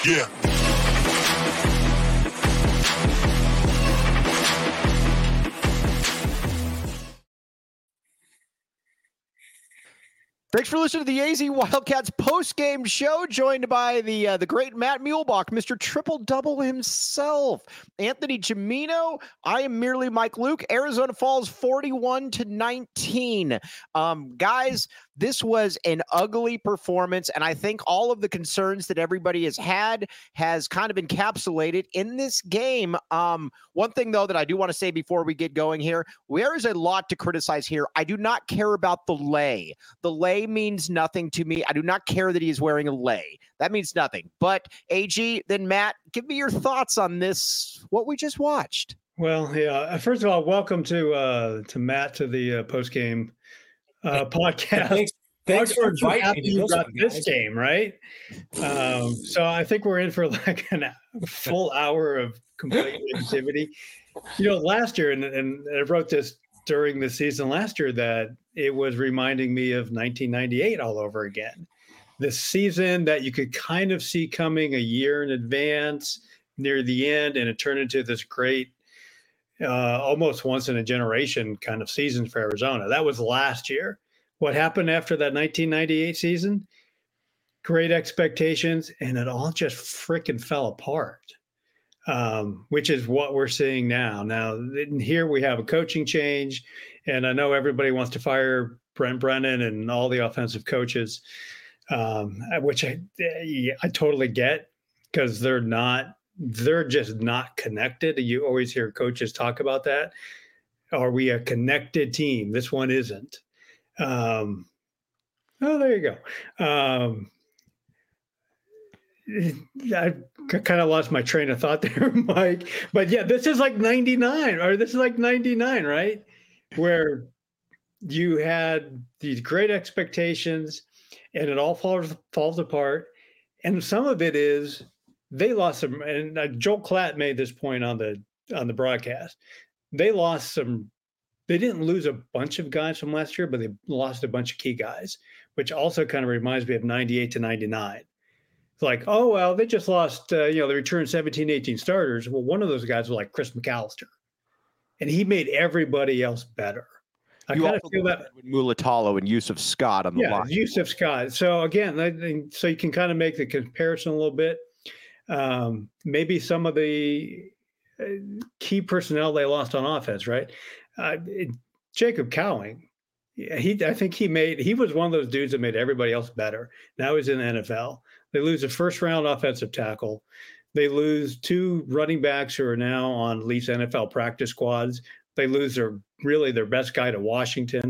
Yeah. Thanks for listening to the AZ Wildcats post-game show, joined by the great Matt Muehlbach, Mr. Triple-Double himself. Anthony Gimino, I am merely Mike Luke. Arizona falls 41-19. Guys, this was an ugly performance, and I think all of the concerns that everybody has had has kind of encapsulated in this game. One thing, though, that I do want to say before we get going here, there is a lot to criticize here. I do not care about the lei. The lei means nothing to me. I do not care that he is wearing a lei. That means nothing. But AG, then Matt, give me your thoughts on this, what we just watched. Well, yeah. First of all, welcome to Matt to the post-game podcast. Thanks for inviting me to this game, right? So I think we're in for like a full hour of complete activity. You know, last year, and I wrote this during the season last year, that it was reminding me of 1998 all over again. The season that you could kind of see coming a year in advance near the end, and it turned into this great, almost once in a generation kind of season for Arizona. That was last year. What happened after that 1998 season? Great expectations, and it all just freaking fell apart, which is what we're seeing now. Now, here we have a coaching change, and I know everybody wants to fire Brent Brennan and all the offensive coaches, which I totally get, because they're just not connected. You always hear coaches talk about that. Are we a connected team? This one isn't. Oh, there you go. I kind of lost my train of thought there, Mike. But yeah, this is like 99, right? Where you had these great expectations and it all falls apart. And some of it is they lost some, and Joel Klatt made this point on the broadcast. They didn't lose a bunch of guys from last year, but they lost a bunch of key guys, which also kind of reminds me of 98 to 99. It's like, oh, well, they just lost, they returned 17, 18 starters. Well, one of those guys was like Chris McAllister, and he made everybody else better. I kind of feel that with Mulatalo and Yusuf Scott on the line. Yeah, Yusuf Scott. So again, so you can kind of make the comparison a little bit. Maybe some of the key personnel they lost on offense, right? Jacob Cowing, I think he was one of those dudes that made everybody else better. Now he's in the NFL. They lose a first-round offensive tackle. They lose two running backs who are now on at least NFL practice squads. They lose their best guy to Washington.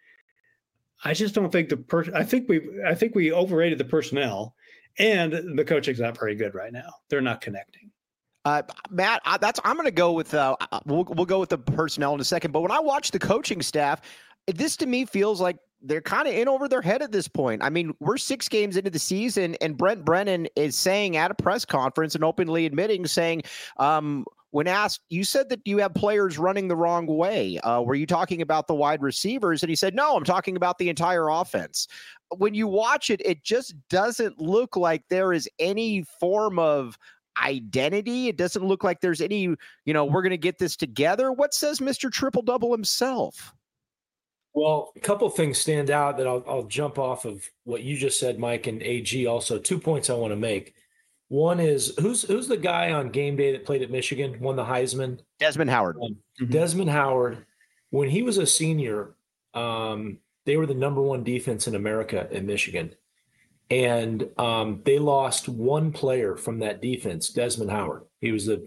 I just don't think I think we overrated the personnel, and the coaching's not very good right now. They're not connecting. Matt, I'm going to go with we'll go with the personnel in a second. But when I watch the coaching staff, this to me feels like they're kind of in over their head at this point. I mean, we're 6 games into the season, and Brent Brennan is saying at a press conference and openly admitting, saying, when asked, you said that you have players running the wrong way. Were you talking about the wide receivers? And he said, no, I'm talking about the entire offense. When you watch it, it just doesn't look like there is any form of identity. It doesn't look like there's any, we're going to get this together. What says Mr. Triple-Double himself? Well, a couple of things stand out that I'll jump off of what you just said, Mike, and AG also. 2 points I want to make. One is, who's the guy on game day that played at Michigan, won the Heisman? Desmond Howard. Desmond Howard. When he was a senior, they were the number 1 defense in America in Michigan. And they lost one player from that defense, Desmond Howard. He was a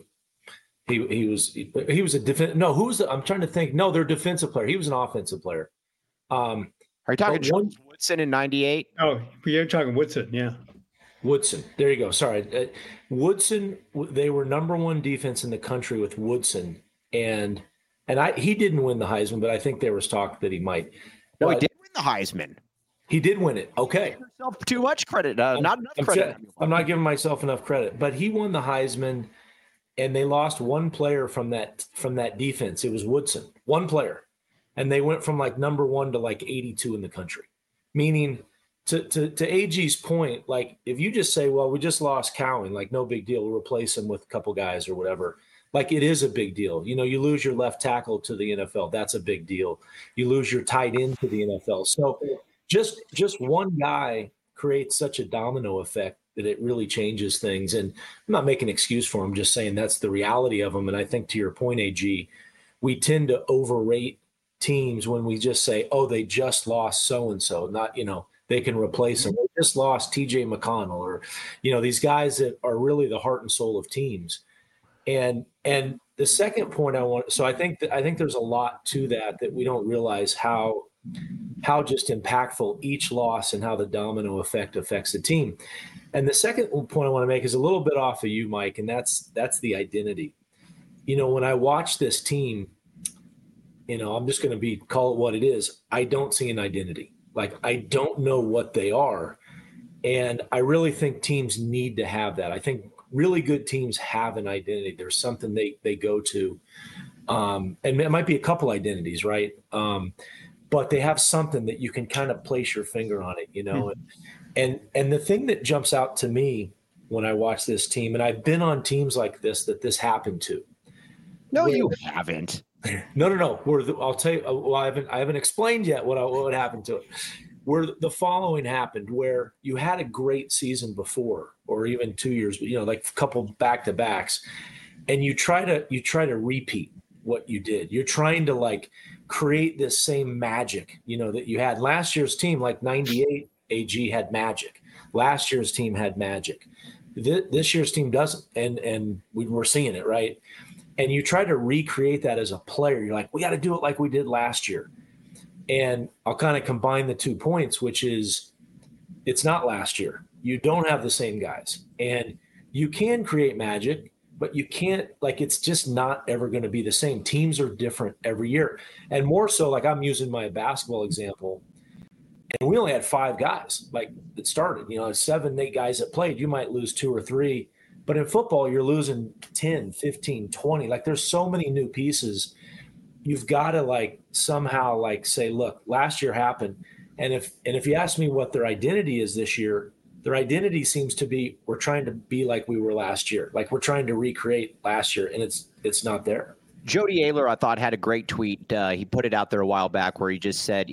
defense. No, I'm trying to think. No, they're a defensive player. He was an offensive player. Are you talking Charles Woodson in 98? Oh, you're talking Woodson, yeah. Woodson. There you go. Sorry. Woodson, they were number 1 defense in the country with Woodson. And he didn't win the Heisman, but I think there was talk that he might. No, he did win the Heisman. He did win it. Okay. Give yourself too much credit. Not enough credit. I'm not giving myself enough credit, but he won the Heisman, and they lost one player from that defense. It was Woodson, one player. And they went from like number 1 to like 82 in the country, meaning to AG's point, like if you just say, well, we just lost Cowan, like no big deal, we'll replace him with a couple guys or whatever. Like it is a big deal. You know, you lose your left tackle to the NFL. That's a big deal. You lose your tight end to the NFL. So just one guy creates such a domino effect that it really changes things. And I'm not making an excuse for him, just saying that's the reality of them. And I think to your point, AG, we tend to overrate teams when we just say, oh, they just lost so-and-so, not, you know, they can replace them. They just lost TJ McConnell or, you know, these guys that are really the heart and soul of teams. And the second point so I think there's a lot to that we don't realize how just impactful each loss and how the domino effect affects the team. And the second point I want to make is a little bit off of you, Mike, and that's the identity. You know, when I watch this team, you know, I'm just going to call it what it is. I don't see an identity. Like, I don't know what they are. And I really think teams need to have that. I think really good teams have an identity. There's something they go to. And it might be a couple identities, right? But they have something that you can kind of place your finger on it, you know? And the thing that jumps out to me when I watch this team, and I've been on teams like this happened to. No, you haven't. No. I'll tell you. Well, I haven't explained yet what happened to it. Where the following happened, where you had a great season before, or even 2 years, you know, like a couple back-to-backs, and you try to repeat what you did. You're trying to like create this same magic, you know, that you had last year's team. Like 98, AG had magic. Last year's team had magic. This year's team doesn't, and we're seeing it, right? And you try to recreate that as a player. You're like, we got to do it like we did last year. And I'll kind of combine the 2 points, which is it's not last year. You don't have the same guys. And you can create magic, but you can't, like, it's just not ever going to be the same. Teams are different every year. And more so, like I'm using my basketball example, and we only had 5 guys, like, that started. You know, 7, 8 guys that played. You might lose 2 or 3. But in football, you're losing 10, 15, 20. Like, there's so many new pieces. You've got to like somehow like say, look, last year happened. And if you ask me what their identity is this year, their identity seems to be, we're trying to be like we were last year. Like we're trying to recreate last year, and it's not there. Jody Ayler, I thought, had a great tweet. He put it out there a while back where he said,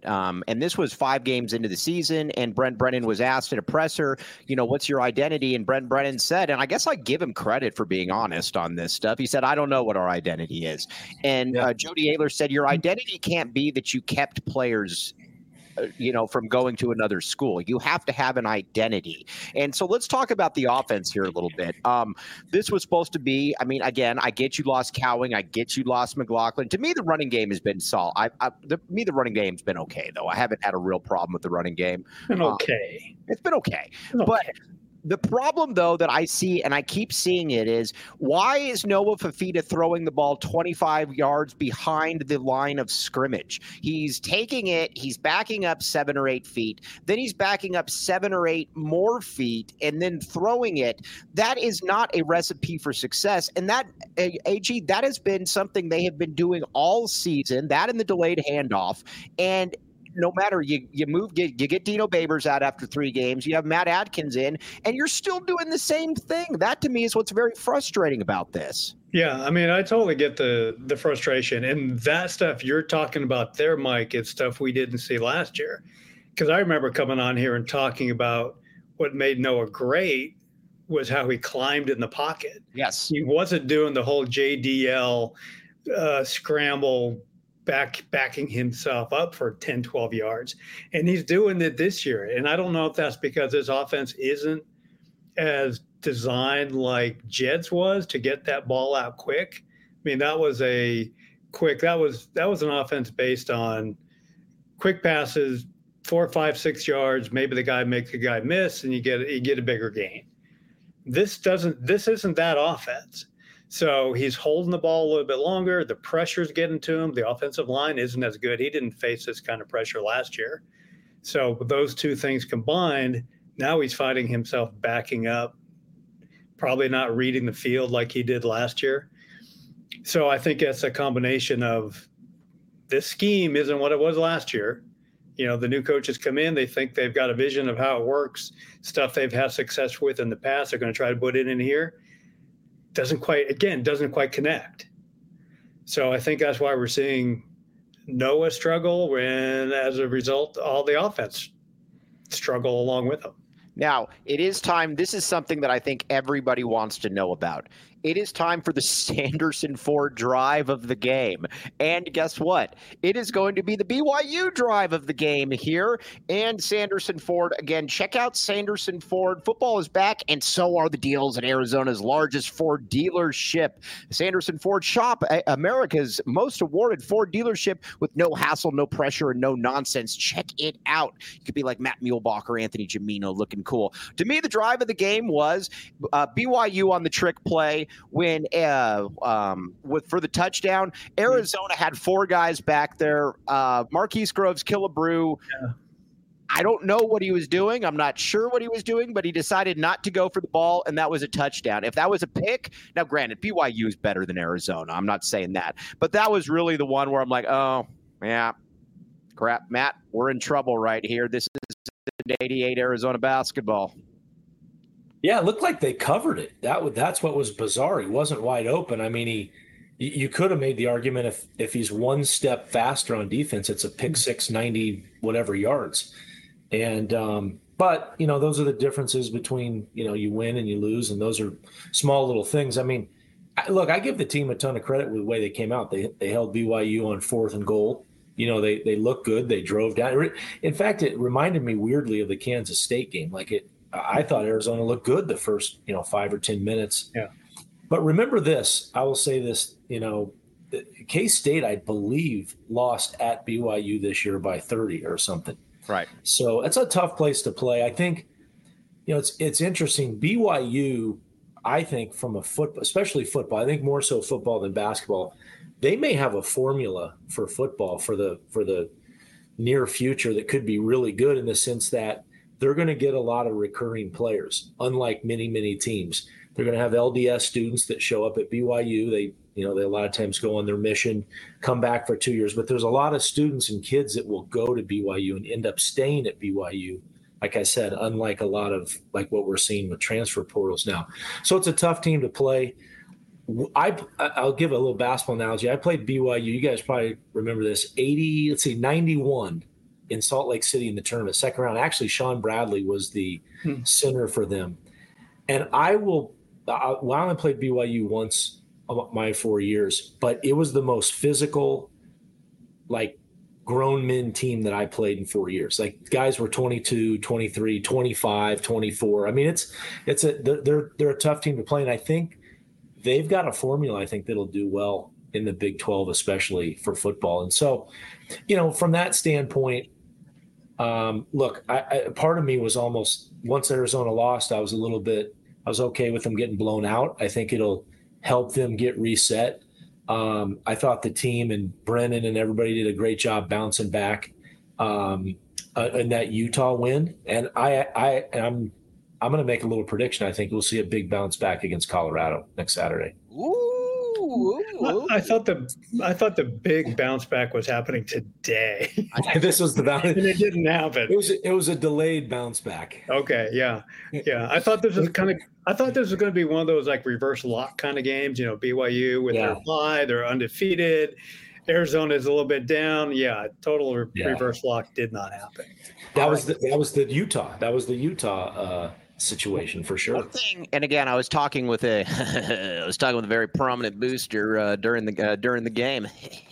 and this was 5 games into the season, and Brent Brennan was asked at a presser, you know, what's your identity? And Brent Brennan said, and I guess I give him credit for being honest on this stuff. He said, I don't know what our identity is. And Jody Ayler said, your identity can't be that you kept players you know, from going to another school. You have to have an identity. And so let's talk about the offense here a little bit. This was supposed to be, I mean, again, I get you lost Cowing. I get you lost McLaughlin. To me, the running game has been solid. The running game's been okay, though. I haven't had a real problem with the running game. Been okay. It's been okay. But the problem, though, that I see, and I keep seeing it, is why is Noah Fifita throwing the ball 25 yards behind the line of scrimmage? He's taking it, he's backing up 7 or 8 feet, then he's backing up 7 or 8 more feet, and then throwing it. That is not a recipe for success. And that, AG, that has been something they have been doing all season, that and the delayed handoff. And no matter you get Dino Babers out after 3 games, you have Matt Adkins in, and you're still doing the same thing. That to me is what's very frustrating about this. Yeah, I mean, I totally get the frustration, and that stuff you're talking about there, Mike, is stuff we didn't see last year. Because I remember coming on here and talking about what made Noah great was how he climbed in the pocket. Yes, he wasn't doing the whole JDL scramble. Backing himself up for 10, 12 yards. And he's doing it this year. And I don't know if that's because his offense isn't as designed like Jed's was to get that ball out quick. I mean, that was an offense based on quick passes, 4, 5, 6 yards. Maybe the guy makes a guy miss and you get a bigger gain. This isn't that offense. So he's holding the ball a little bit longer. The pressure's getting to him. The offensive line isn't as good. He didn't face this kind of pressure last year. So with those two things combined, now he's finding himself backing up, probably not reading the field like he did last year. So I think that's a combination of this scheme isn't what it was last year. The new coaches come in, they think they've got a vision of how it works, stuff they've had success with in the past. They're going to try to put it in here. Doesn't quite connect. So I think that's why we're seeing Noah struggle, and as a result, all the offense struggle along with them. Now, it is time. This is something that I think everybody wants to know about. It is time for the Sanderson Ford drive of the game. And guess what? It is going to be the BYU drive of the game here. And Sanderson Ford, again, check out Sanderson Ford. Football is back, and so are the deals at Arizona's largest Ford dealership. Sanderson Ford Shop, America's most awarded Ford dealership with no hassle, no pressure, and no nonsense. Check it out. You could be like Matt Muehlbach or Anthony Gimino looking cool. To me, the drive of the game was BYU on the trick play. When for the touchdown, Arizona had 4 guys back there. Marquise Groves, Killebrew. Yeah. I don't know what he was doing. I'm not sure what he was doing, but he decided not to go for the ball, and that was a touchdown. If that was a pick, now granted, BYU is better than Arizona. I'm not saying that. But that was really the one where I'm like, oh, yeah, crap, Matt, we're in trouble right here. This is 88 Arizona basketball. Yeah, it looked like they covered it. That's what was bizarre. He wasn't wide open. I mean, you could have made the argument if he's one step faster on defense, it's a pick six, 90 whatever yards. And but those are the differences between you win and you lose, and those are small little things. I mean, look, I give the team a ton of credit with the way they came out. They held BYU on 4th and goal. They looked good. They drove down. In fact, it reminded me weirdly of the Kansas State game. I thought Arizona looked good the first, 5 or 10 minutes. Yeah. But remember this, I will say this, K-State, I believe, lost at BYU this year by 30 or something. Right. So it's a tough place to play. I think, it's interesting. BYU, I think from a football, especially football, I think more so football than basketball, they may have a formula for football for the near future that could be really good in the sense that they're going to get a lot of recurring players, unlike many, many teams. They're going to have LDS students that show up at BYU. They a lot of times go on their mission, come back for 2 years. But there's a lot of students and kids that will go to BYU and end up staying at BYU. Like I said, unlike a lot of like what we're seeing with transfer portals now. So it's a tough team to play. I'll give a little basketball analogy. I played BYU. You guys probably remember this. 91. In Salt Lake City in the tournament, second round. Actually, Sean Bradley was the center for them. And I only played BYU once of my 4 years, but it was the most physical, grown men team that I played in 4 years. Guys were 22, 23, 25, 24. I mean, they're a tough team to play. And I think they've got a formula, I think, that'll do well in the Big 12, especially for football. And so, from that standpoint, look, part of me was almost, once Arizona lost, I was okay with them getting blown out. I think it'll help them get reset. I thought the team and Brennan and everybody did a great job bouncing back in that Utah win. And I'm going to make a little prediction. I think we'll see a big bounce back against Colorado next Saturday. Ooh. I thought the big bounce back was happening today. This was the bounce, and it didn't happen. It was a delayed bounce back. Okay, yeah. I thought this was going to be one of those reverse lock kind of games. BYU with their bye, they're undefeated. Arizona is a little bit down. Yeah, total reverse lock did not happen. That was the Utah situation for sure. One thing, and again, I was talking with a very prominent booster during the game.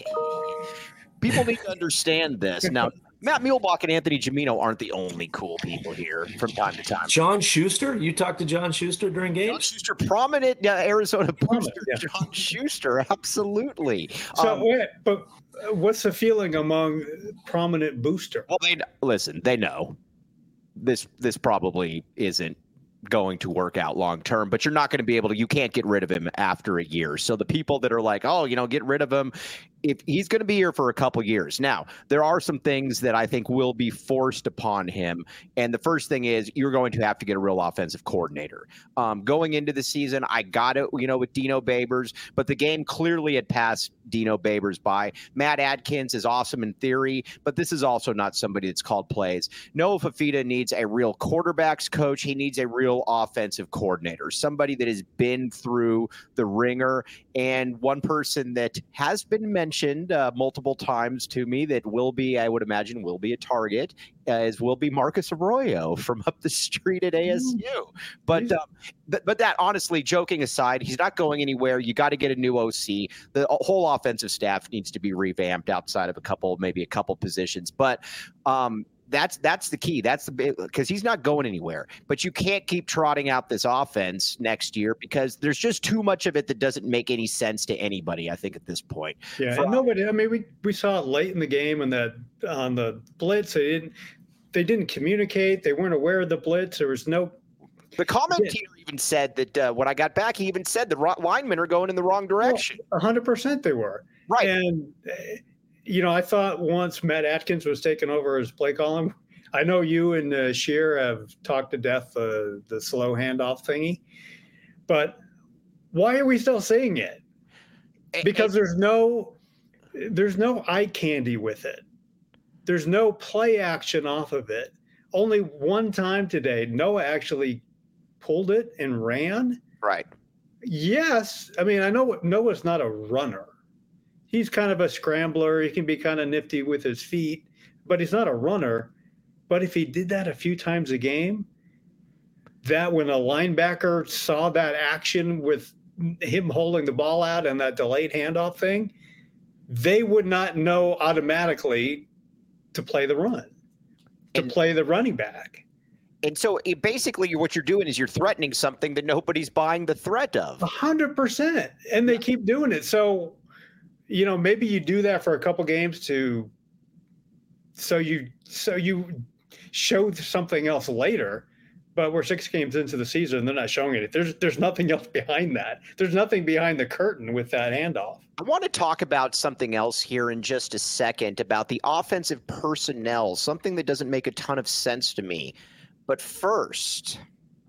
People need to understand this. Now, Matt Muehlbach and Anthony Gimino aren't the only cool people here from time to time. John Schuster, you talked to John Schuster during games? John Schuster, prominent Arizona booster. Yeah. John Schuster, absolutely. So, but what's the feeling among prominent booster? Well, they know. This probably isn't going to work out long term, but you're not going to be able to. You can't get rid of him after a year. So the people that are like, oh, get rid of him, if he's going to be here for a couple years. Now, there are some things that I think will be forced upon him. And the first thing is you're going to have to get a real offensive coordinator. Going into the season, I got it, with Dino Babers, but the game clearly had passed Dino Babers by. Matt Adkins is awesome in theory, but this is also not somebody that's called plays. Noah Fafita needs a real quarterbacks coach. He needs a real offensive coordinator, somebody that has been through the ringer. And one person that has been mentioned multiple times to me that will be, I would imagine, will be a target will be Marcus Arroyo from up the street at ASU. But that, honestly, joking aside, he's not going anywhere. You got to get a new OC. The whole offensive staff needs to be revamped outside of maybe a couple positions. But that's the key. That's because he's not going anywhere. But you can't keep trotting out this offense next year because there's just too much of it that doesn't make any sense to anybody, I think, at this point. Yeah, and nobody. I mean, we saw it late in the game and that on the blitz. They didn't communicate. They weren't aware of the blitz. There was no. The commentator even said that when I got back, he even said the linemen are going in the wrong direction. 100% they were. Right. And, I thought once Matt Atkins was taking over as play calling, I know you and Shear have talked to death the slow handoff thingy, but why are we still seeing it? Because there's no eye candy with it. There's no play action off of it. Only one time today, Noah actually pulled it and ran. Right. Yes. I mean, I know Noah's not a runner. He's kind of a scrambler. He can be kind of nifty with his feet, but he's not a runner. But if he did that a few times a game, that when a linebacker saw that action with him holding the ball out and that delayed handoff thing, they would not know automatically to play the run, to play the running back. And so basically what you're doing is you're threatening something that nobody's buying the threat of. 100%. And they keep doing it. So, maybe you do that for a couple games so you show something else later, but we're 6 games into the season and they're not showing it. There's nothing else behind that. There's nothing behind the curtain with that handoff. I want to talk about something else here in just a second about the offensive personnel, something that doesn't make a ton of sense to me. But first,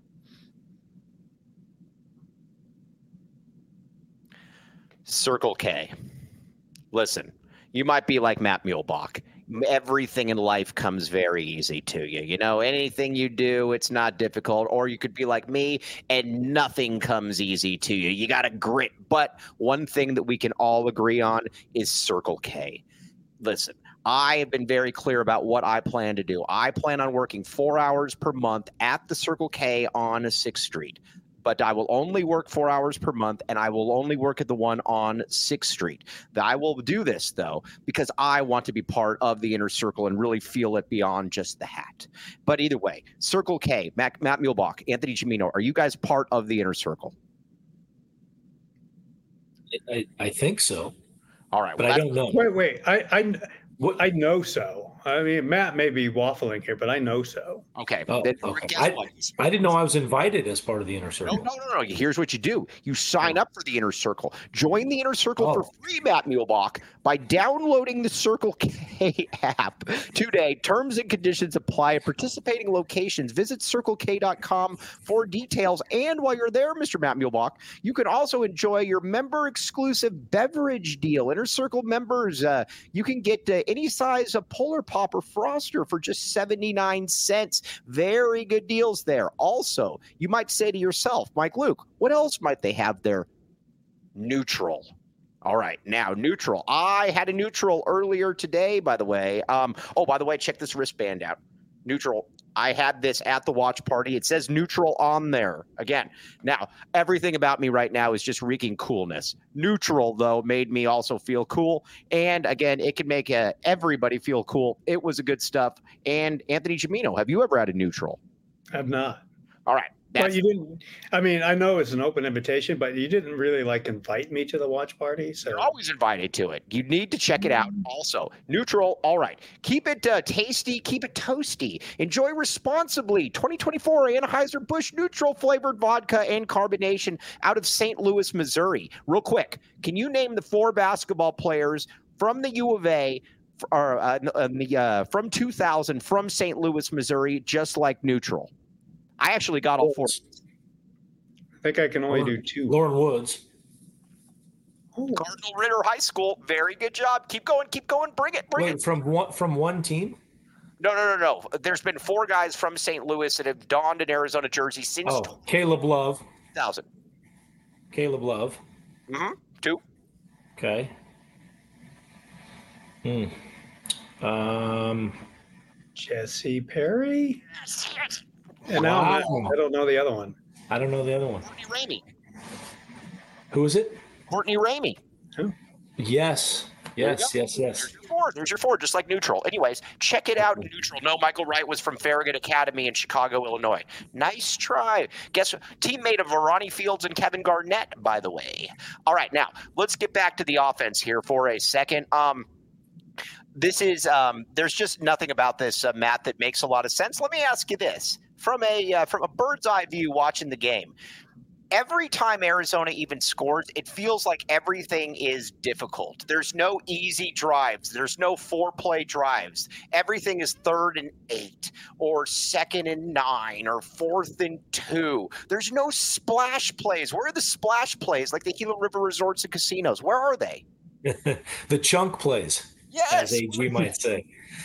Circle K. Listen, you might be like Matt Muehlbach. Everything in life comes very easy to you. Anything you do, it's not difficult. Or you could be like me and nothing comes easy to you. You got to grit. But one thing that we can all agree on is Circle K. Listen, I have been very clear about what I plan to do. I plan on working 4 hours per month at the Circle K on 6th Street. But I will only work 4 hours per month, and I will only work at the one on 6th Street. I will do this, though, because I want to be part of the inner circle and really feel it beyond just the hat. But either way, Circle K, Matt Muehlbach, Anthony Gimino, are you guys part of the inner circle? I think so. All right. But I don't know. Wait. I know so. I mean, Matt may be waffling here, but I know so. Okay. Okay. I didn't know I was invited as part of the inner circle. No. Here's what you do. You sign up for the inner circle. Join the inner circle for free, Matt Muehlbach, by downloading the Circle K app today. Terms and conditions apply at participating locations. Visit CircleK.com for details. And while you're there, Mr. Matt Muehlbach, you can also enjoy your member-exclusive beverage deal. Inner Circle members, you can get any size of Polar Pop or Froster for just 79 cents. Very good deals there. Also, you might say to yourself, Mike Luke, what else might they have there? Neutral. All right. Now, Neutral. I had a Neutral earlier today, by the way. By the way, check this wristband out. Neutral. I had this at the watch party. It says Neutral on there. Again, now, everything about me right now is just reeking coolness. Neutral, though, made me also feel cool. And again, it can make everybody feel cool. It was a good stuff. And Anthony Gimino, have you ever had a Neutral? I've not. All right. But you didn't. I mean, I know it's an open invitation, but you didn't really invite me to the watch party. So you're always invited to it. You need to check it out. Also, Neutral. All right, keep it tasty, keep it toasty. Enjoy responsibly. 2024 Anheuser-Busch Neutral flavored vodka and carbonation out of St. Louis, Missouri. Real quick, can you name the 4 basketball players from the U of A? From 2000 from St. Louis, Missouri, just like Neutral. I actually got all 4. I think I can only do 2. Lauren Woods. Cardinal Ritter High School. Very good job. Keep going. Bring it. Wait, from one team? No. There's been 4 guys from St. Louis that have donned an Arizona jersey since Caleb Love. 2000. Caleb Love. 2. Okay. Jesse Perry. And Wow. I don't know the other one. I don't know the other one. Courtney Ramey. Who is it? Courtney Ramey. Who? Yes. Yes. There's your 4, just like Neutral. Anyways, check it out. Neutral. No, Michael Wright was from Farragut Academy in Chicago, Illinois. Nice try. Guess what? Teammate of Ronnie Fields and Kevin Garnett, by the way. All right, now let's get back to the offense here for a second. This is there's just nothing about this, Matt, that makes a lot of sense. Let me ask you this from a bird's eye view, watching the game. Every time Arizona even scores, it feels like everything is difficult. There's no easy drives. There's no 4-play drives. Everything is 3rd and 8 or 2nd and 9 or 4th and 2. There's no splash plays. Where are the splash plays like the Gila River Resorts and Casinos? Where are they? The chunk plays, yes, as AG might say.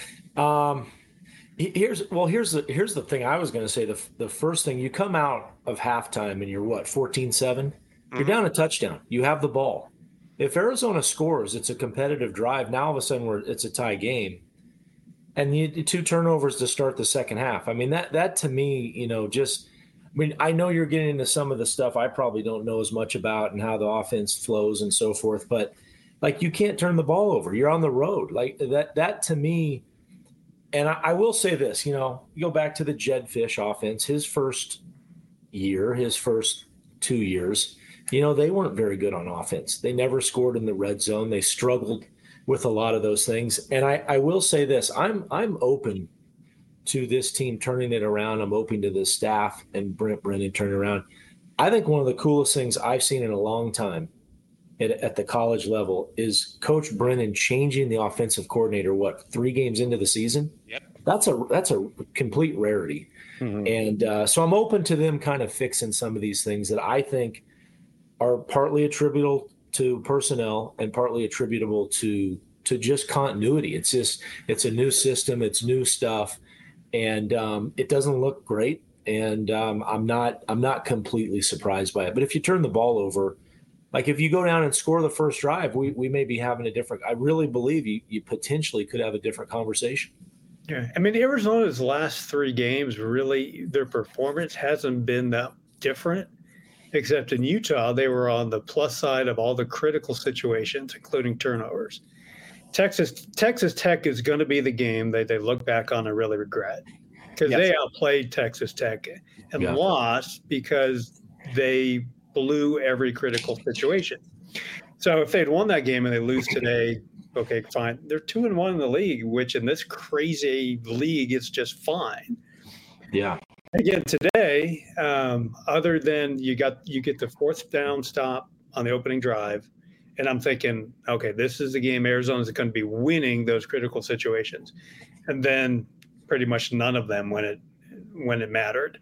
Here's the thing I was going to say. The first thing, you come out of halftime and you're 14-7. You're down a touchdown. You have the ball. If Arizona scores, it's a competitive drive. Now all of a sudden it's a tie game, and you 2 turnovers to start the second half. I mean that to me, I know you're getting into some of the stuff I probably don't know as much about and how the offense flows and so forth, but you can't turn the ball over. You're on the road. That to me. And I will say this, you go back to the Jedd Fisch offense, his first 2 years, they weren't very good on offense. They never scored in the red zone. They struggled with a lot of those things. And I will say this, I'm open to this team turning it around. I'm open to the staff and Brent Brennan turning around. I think one of the coolest things I've seen in a long time at the college level is Coach Brennan changing the offensive coordinator, 3 games into the season? Yep. That's a complete rarity. Mm-hmm. And so I'm open to them kind of fixing some of these things that I think are partly attributable to personnel and partly attributable to just continuity. It's a new system. It's new stuff. And it doesn't look great. And I'm not completely surprised by it. But if you turn the ball over, if you go down and score the first drive, we may be having I really believe you potentially could have a different conversation. Yeah. I mean, Arizona's last 3 games, really, their performance hasn't been that different, except in Utah, they were on the plus side of all the critical situations, including turnovers. Texas Tech is going to be the game that they look back on and really regret, because they outplayed Texas Tech and lost because they blew every critical situation. So if they'd won that game and they lose today, okay, fine. They're 2-1 in the league, which in this crazy league is just fine. Yeah. Again, today, other than you get the 4th down stop on the opening drive, and I'm thinking, okay, this is the game Arizona's going to be winning those critical situations, and then pretty much none of them when it mattered.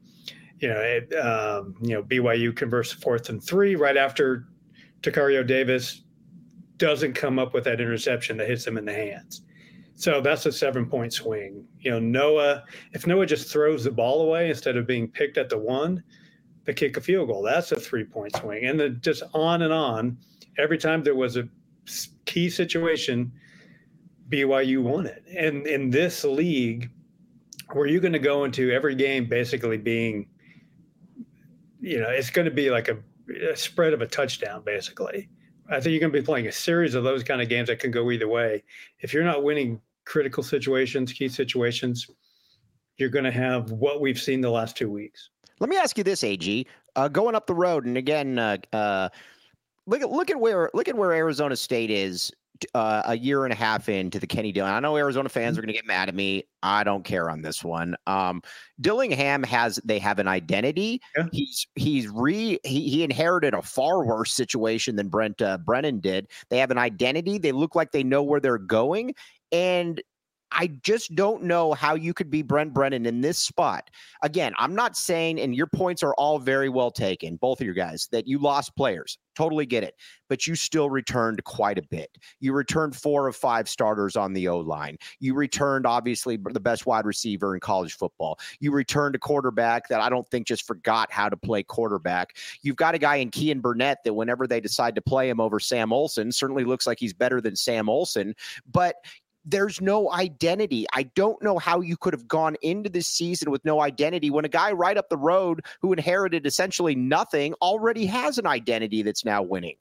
BYU converts 4th and 3 right after Takario Davis doesn't come up with that interception that hits him in the hands. So that's a 7-point swing. If Noah just throws the ball away instead of being picked at the 1, they kick a field goal. That's a 3-point swing. And then just on and on. Every time there was a key situation, BYU won it. And in this league, where you're going to go into every game basically being, it's going to be like a spread of a touchdown, basically. I think you're going to be playing a series of those kind of games that can go either way. If you're not winning critical situations, key situations, you're going to have what we've seen the last 2 weeks. Let me ask you this, AG. Going up the road, and again, look at where Arizona State is a year and a half into the Kenny Dillingham. I know Arizona fans are going to get mad at me. I don't care on this one. Dillingham they have an identity. Yeah. He inherited a far worse situation than Brent Brennan did. They have an identity. They look like they know where they're going, and I just don't know how you could be Brent Brennan in this spot. Again, I'm not saying, and your points are all very well taken, both of you guys, that you lost players. Totally get it. But you still returned quite a bit. You returned 4 of 5 starters on the O-line. You returned, obviously, the best wide receiver in college football. You returned a quarterback that I don't think just forgot how to play quarterback. You've got a guy in Kean Burnett that whenever they decide to play him over Sam Olsen, certainly looks like he's better than Sam Olsen. But there's no identity. I don't know how you could have gone into this season with no identity when a guy right up the road who inherited essentially nothing already has an identity that's now winning.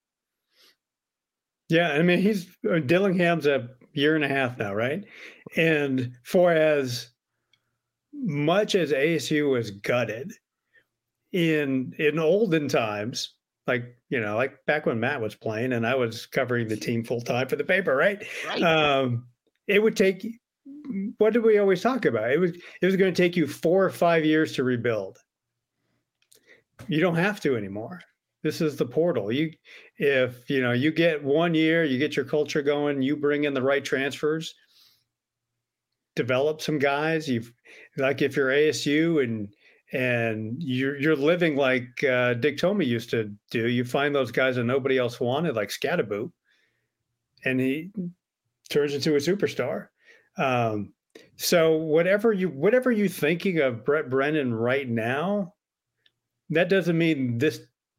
Yeah, I mean, Dillingham's a year and a half now, right? And for as much as ASU was gutted in olden times, like back when Matt was playing and I was covering the team full time for the paper, right? It would take, what did we always talk about? It was going to take you 4 or 5 years to rebuild. You don't have to anymore. This is the portal. If you get 1 year, you get your culture going, you bring in the right transfers, develop some guys. If you're ASU and you're living like Dick Tomey used to do. You find those guys that nobody else wanted, like Scatterboot, and he turns into a superstar. So whatever you're thinking of Brent Brennan right now, that doesn't mean this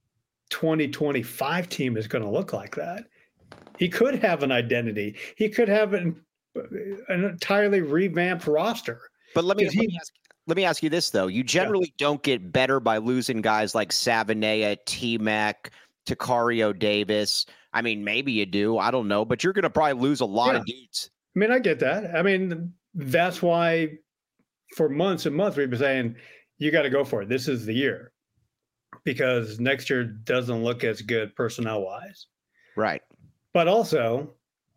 2025 team is going to look like that. He could have an identity. He could have an entirely revamped roster. But let me ask you this, though. You generally don't get better by losing guys like Savanea, T-Mac, Takario Davis. I mean, maybe you do. I don't know. But you're going to probably lose a lot of dudes. I mean, I get that. I mean, that's why for months and months we've been saying, you got to go for it. This is the year. Because next year doesn't look as good personnel-wise. Right. But also,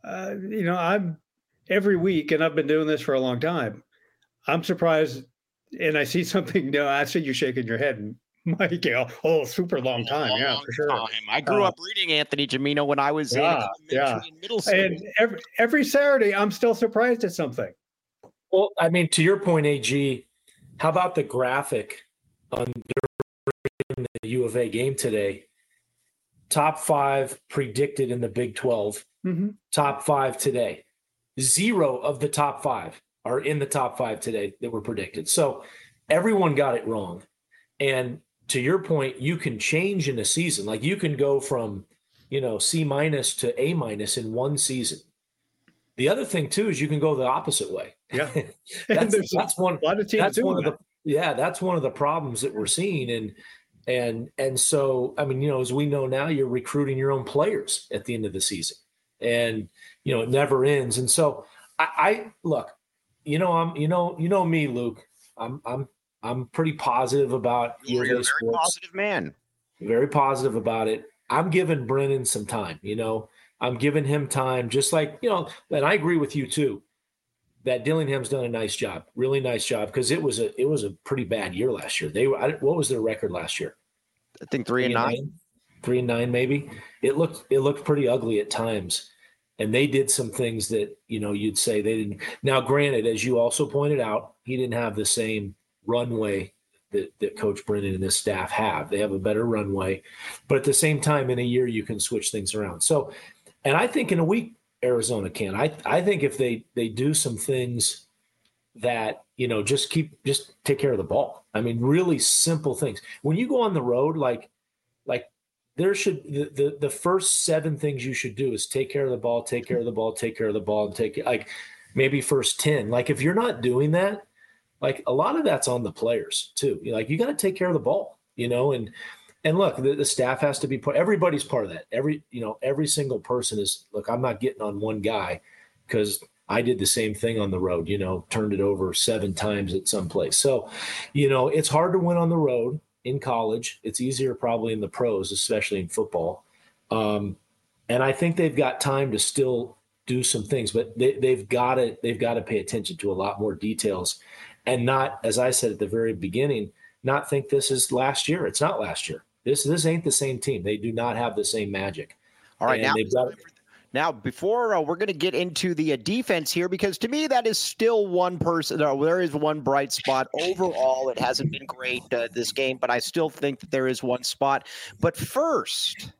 I'm every week, and I've been doing this for a long time, I'm surprised – and I see something. No, I see you shaking your head, Mike. Super long time. Yeah, for sure. I grew up reading Anthony Gimino when I was in middle school. And every Saturday, I'm still surprised at something. Well, I mean, to your point, AG, how about the graphic on the U of A game today? Top 5 predicted in the Big 12. Mm-hmm. Top 5 today. 0 of the top 5 are in the top 5 today that were predicted. So everyone got it wrong. And to your point, you can change in a season. Like you can go from, C- to A- in one season. The other thing too is you can go the opposite way. Yeah. that's one of the problems that we're seeing. And so, I mean, as we know now, you're recruiting your own players at the end of the season, and it never ends. And so I look, me, Luke. I'm pretty positive about you're a very positive man. Very positive about it. I'm giving Brennan some time. I'm giving him time, just like and I agree with you too. That Dillingham's done a nice job, really nice job, because it was a pretty bad year last year. What was their record last year? I think 3-9. 3-9 maybe. It looked pretty ugly at times. And they did some things that, you'd say they didn't. Now, granted, as you also pointed out, he didn't have the same runway that Coach Brennan and his staff have. They have a better runway. But at the same time, in a year, you can switch things around. So, and I think in a week, Arizona can. I think if they do some things that, just take care of the ball. I mean, really simple things. When you go on the road, like there should the first 7 things you should do is take care of the ball, take care of the ball, take care of the ball, and take maybe first 10. Like if you're not doing that, like a lot of that's on the players too. You got to take care of the ball, and look, the staff has to be everybody's part of that. Every single person is, look, I'm not getting on one guy because I did the same thing on the road, turned it over 7 times at some place. So, it's hard to win on the road in college. It's easier probably in the pros, especially in football. And I think they've got time to still do some things, but they've got to pay attention to a lot more details and not, as I said at the very beginning, not think this is last year. It's not last year. This ain't the same team. They do not have the same magic. All right, and now, before we're going to get into the defense here, because to me, that is still one person. There is one bright spot. Overall, it hasn't been great this game, but I still think that there is one spot. But first,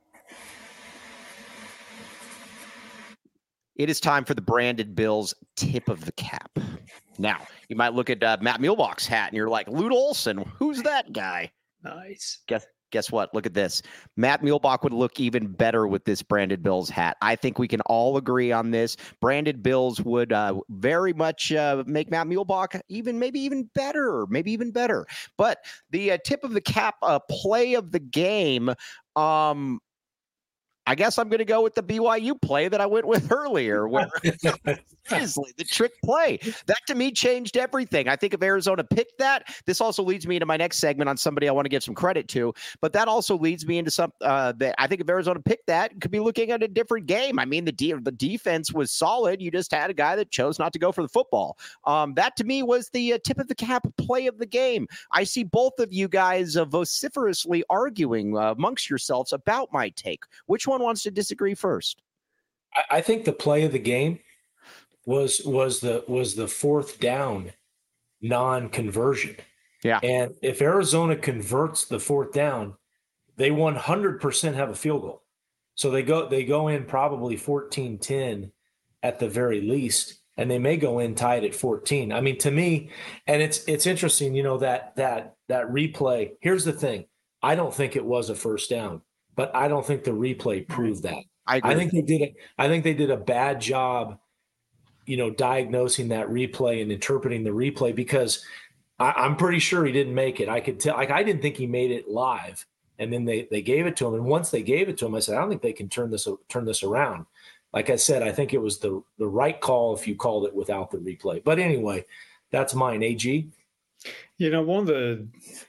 it is time for the Branded Bills tip of the cap. Now, you might look at Matt Muehlbach's hat, and you're like, Lute Olson, who's that guy? Nice. Guess what? Look at this. Matt Muehlbach would look even better with this Branded Bills hat. I think we can all agree on this. Branded Bills would very much make Matt Muehlbach maybe even better. But the tip of the cap play of the game, I guess I'm going to go with the BYU play that I went with earlier, where seriously, the trick play. That to me changed everything. I think if Arizona picked that, this also leads me into my next segment on somebody I want to give some credit to, but that also leads me into some that I think if Arizona picked that, could be looking at a different game. I mean, the defense was solid. You just had a guy that chose not to go for the football. That to me was the tip of the cap play of the game. I see both of you guys vociferously arguing amongst yourselves about my take. Which one wants to disagree first? I think the play of the game was the fourth down non-conversion. Yeah. And if Arizona converts the fourth down, they 100% have a field goal. So they go in probably 14-10 at the very least, and they may go in tied at 14. I mean, to me, and it's interesting, that replay. Here's the thing. I don't think it was a first down, but I don't think the replay proved that. I think they did a bad job, diagnosing that replay and interpreting the replay, because I'm pretty sure he didn't make it. I could tell. I didn't think he made it live, and then they gave it to him. And once they gave it to him, I said, I don't think they can turn this around. Like I said, I think it was the right call if you called it without the replay. But anyway, that's mine. AG. One of the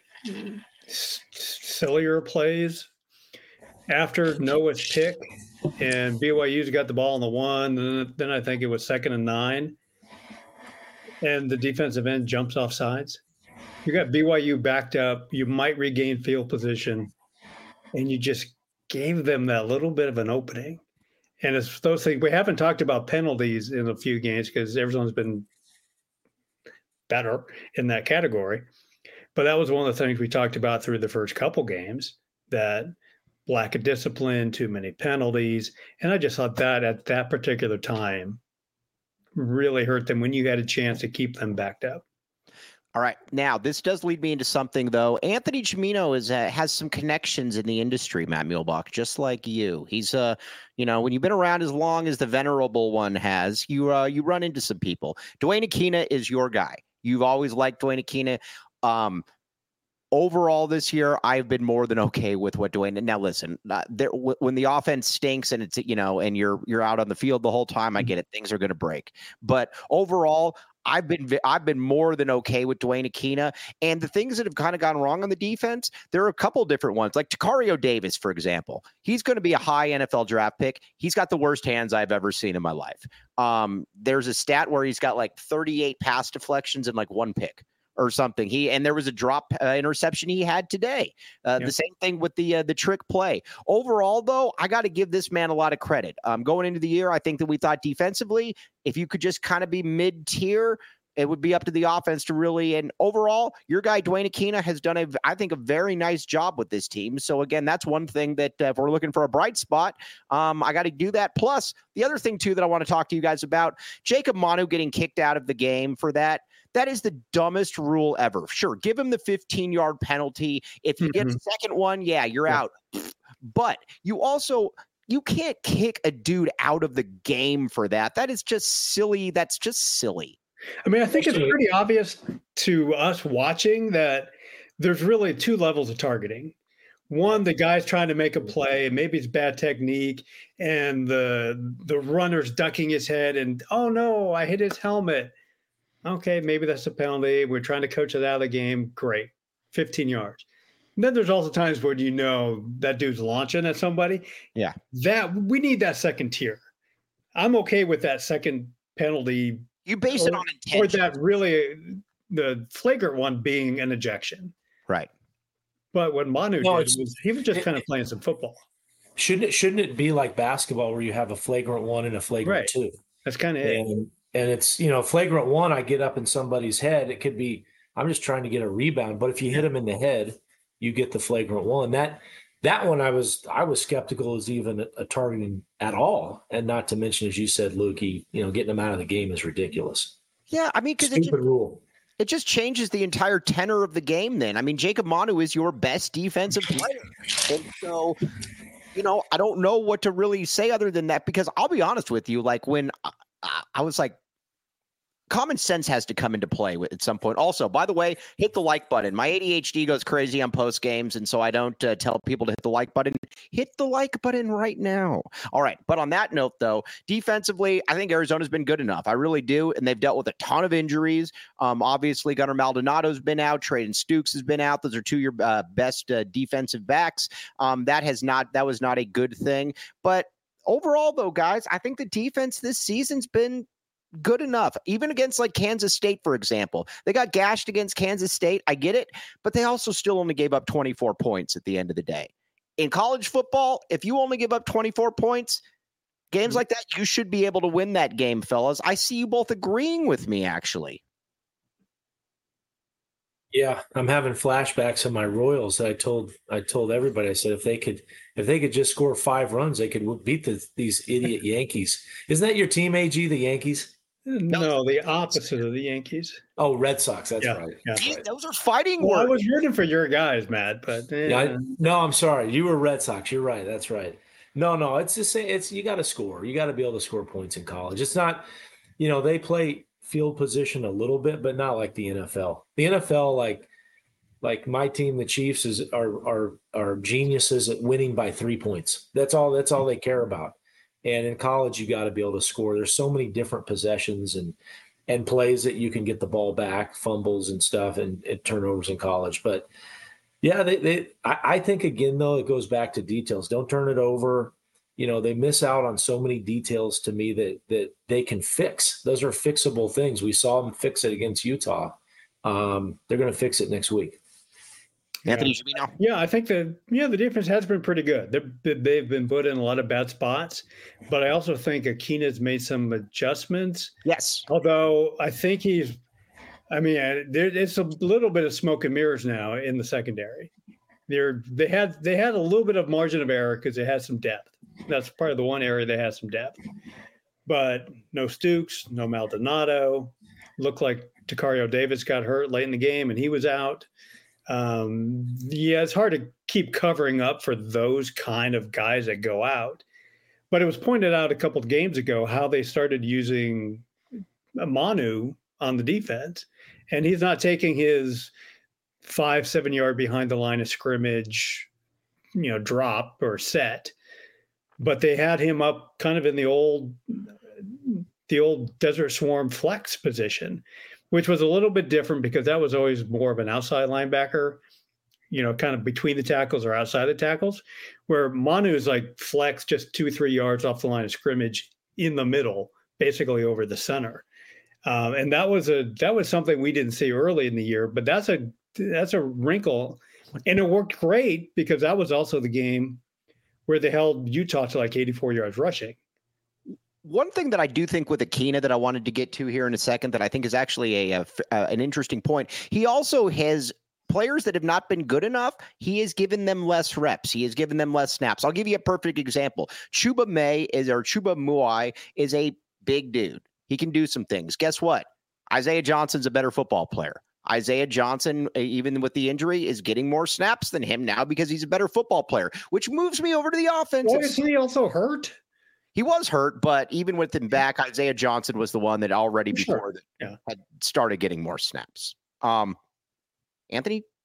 sillier plays after Noah's pick and BYU's got the ball on the 1, then I think it was 2nd and 9, and the defensive end jumps off sides. You got BYU backed up. You might regain field position, and you just gave them that little bit of an opening. And it's those things. We haven't talked about penalties in a few games because Arizona's been better in that category. But that was one of the things we talked about through the first couple games, that lack of discipline, too many penalties. And I just thought that at that particular time really hurt them when you had a chance to keep them backed up. All right. Now, this does lead me into something, though. Anthony Chimino has some connections in the industry, Matt Muehlbach, just like you. He's, when you've been around as long as the venerable one has, you run into some people. Duane Akina is your guy. You've always liked Duane Akina. Overall this year, I've been more than okay with what Duane. Now, listen, when the offense stinks and it's, and you're out on the field the whole time, I get it. Things are going to break. But overall, I've been more than okay with Duane Akina. And the things that have kind of gone wrong on the defense, there are a couple different ones. Like Tacario Davis, for example. He's going to be a high NFL draft pick. He's got the worst hands I've ever seen in my life. There's a stat where he's got like 38 pass deflections and like 1 pick or something. And there was a drop interception he had today. The same thing with the trick play. Overall, though, I got to give this man a lot of credit. Going into the year, I think that we thought defensively, if you could just kind of be mid-tier, it would be up to the offense to really. And overall, your guy Duane Akina has done I think a very nice job with this team. So again, that's one thing that if we're looking for a bright spot, I got to do that. Plus, the other thing too that I want to talk to you guys about, Jacob Manu getting kicked out of the game for that. That is the dumbest rule ever. Sure, give him the 15-yard penalty. If you get a second one, you're out. But you can't kick a dude out of the game for that. That is just silly. That's just silly. I mean, I think it's pretty obvious to us watching that there's really 2 levels of targeting. One, the guy's trying to make a play, and maybe it's bad technique, and the runner's ducking his head, and oh no, I hit his helmet. Okay, maybe that's a penalty. We're trying to coach it out of the game. Great, 15 yards. And then there's also times where that dude's launching at somebody. Yeah, that we need that second tier. I'm okay with that second penalty. You base it on intention, or that really the flagrant one being an ejection, right? But what Manu did was he was just kind of playing some football. Shouldn't it be like basketball where you have a flagrant 1 and a flagrant 2? That's kind of it. And it's, flagrant 1, I get up in somebody's head. It could be, I'm just trying to get a rebound. But if you hit him in the head, you get the flagrant 1. That one I was skeptical is even a targeting at all. And not to mention, as you said, Lukey, getting him out of the game is ridiculous. Yeah, I mean, because stupid rule. It just changes the entire tenor of the game then. I mean, Jacob Manu is your best defensive player. And so, I don't know what to really say other than that, because I'll be honest with you, like when I was like, common sense has to come into play at some point. Also, by the way, hit the like button. My ADHD goes crazy on post games, and so I don't tell people to hit the like button. Hit the like button right now. All right. But on that note, though, defensively, I think Arizona's been good enough. I really do. And they've dealt with a ton of injuries. Obviously, Gunnar Maldonado's been out. Traden Stukes has been out. Those are two of your best defensive backs. That was not a good thing. But overall, though, guys, I think the defense this season's been good enough, even against like Kansas State, for example. They got gashed against Kansas State. I get it, but they also still only gave up 24 points at the end of the day. In college football, if you only give up 24 points, games like that, you should be able to win that game, fellas. I see you both agreeing with me, actually. Yeah, I'm having flashbacks of my Royals. I told everybody, I said if they could just score 5 runs, they could beat these idiot Yankees. Isn't that your team, AG, the Yankees? No, the opposite of the Yankees. Oh, Red Sox. That's right. Yeah. Right. Those are fighting words. I was rooting for your guys, Matt, but no, I'm sorry. You were Red Sox. You're right. That's right. No, it's just it's you got to score. You got to be able to score points in college. It's not, they play field position a little bit, but not like the NFL. The NFL, like my team, the Chiefs, are geniuses at winning by 3 points. That's all they care about. And in college, you got to be able to score. There's so many different possessions and plays that you can get the ball back, fumbles and stuff, and turnovers in college. But yeah, I think again though, it goes back to details. Don't turn it over. They miss out on so many details to me that they can fix. Those are fixable things. We saw them fix it against Utah. They're going to fix it next week. Anthony, yeah, I think the defense has been pretty good. They've been put in a lot of bad spots, but I also think Akina's made some adjustments. Yes. Although I think it's a little bit of smoke and mirrors now in the secondary. They had a little bit of margin of error because they had some depth. That's part of the one area they had some depth. But no Stukes, no Maldonado. Looked like Tacario Davis got hurt late in the game and he was out. It's hard to keep covering up for those kind of guys that go out. But it was pointed out a couple of games ago how they started using Manu on the defense. And he's not taking his 5-7 yard behind the line of scrimmage, drop or set. But they had him up kind of in the old Desert Swarm flex position, which was a little bit different because that was always more of an outside linebacker, kind of between the tackles or outside the tackles, where Manu is like flex just 2-3 yards off the line of scrimmage in the middle, basically over the center. And that was something we didn't see early in the year, but that's a wrinkle. And it worked great because that was also the game where they held Utah to like 84 yards rushing. One thing that I do think with Akina that I wanted to get to here in a second that I think is actually an interesting point. He also has players that have not been good enough. He has given them less reps. He has given them less snaps. I'll give you a perfect example. Chuba Muai is a big dude. He can do some things. Guess what? Isaiah Johnson's a better football player. Isaiah Johnson, even with the injury, is getting more snaps than him now because he's a better football player, which moves me over to the offense. Is he also hurt? He was hurt, but even with him back, Isaiah Johnson was the one that already before had started getting more snaps. Anthony,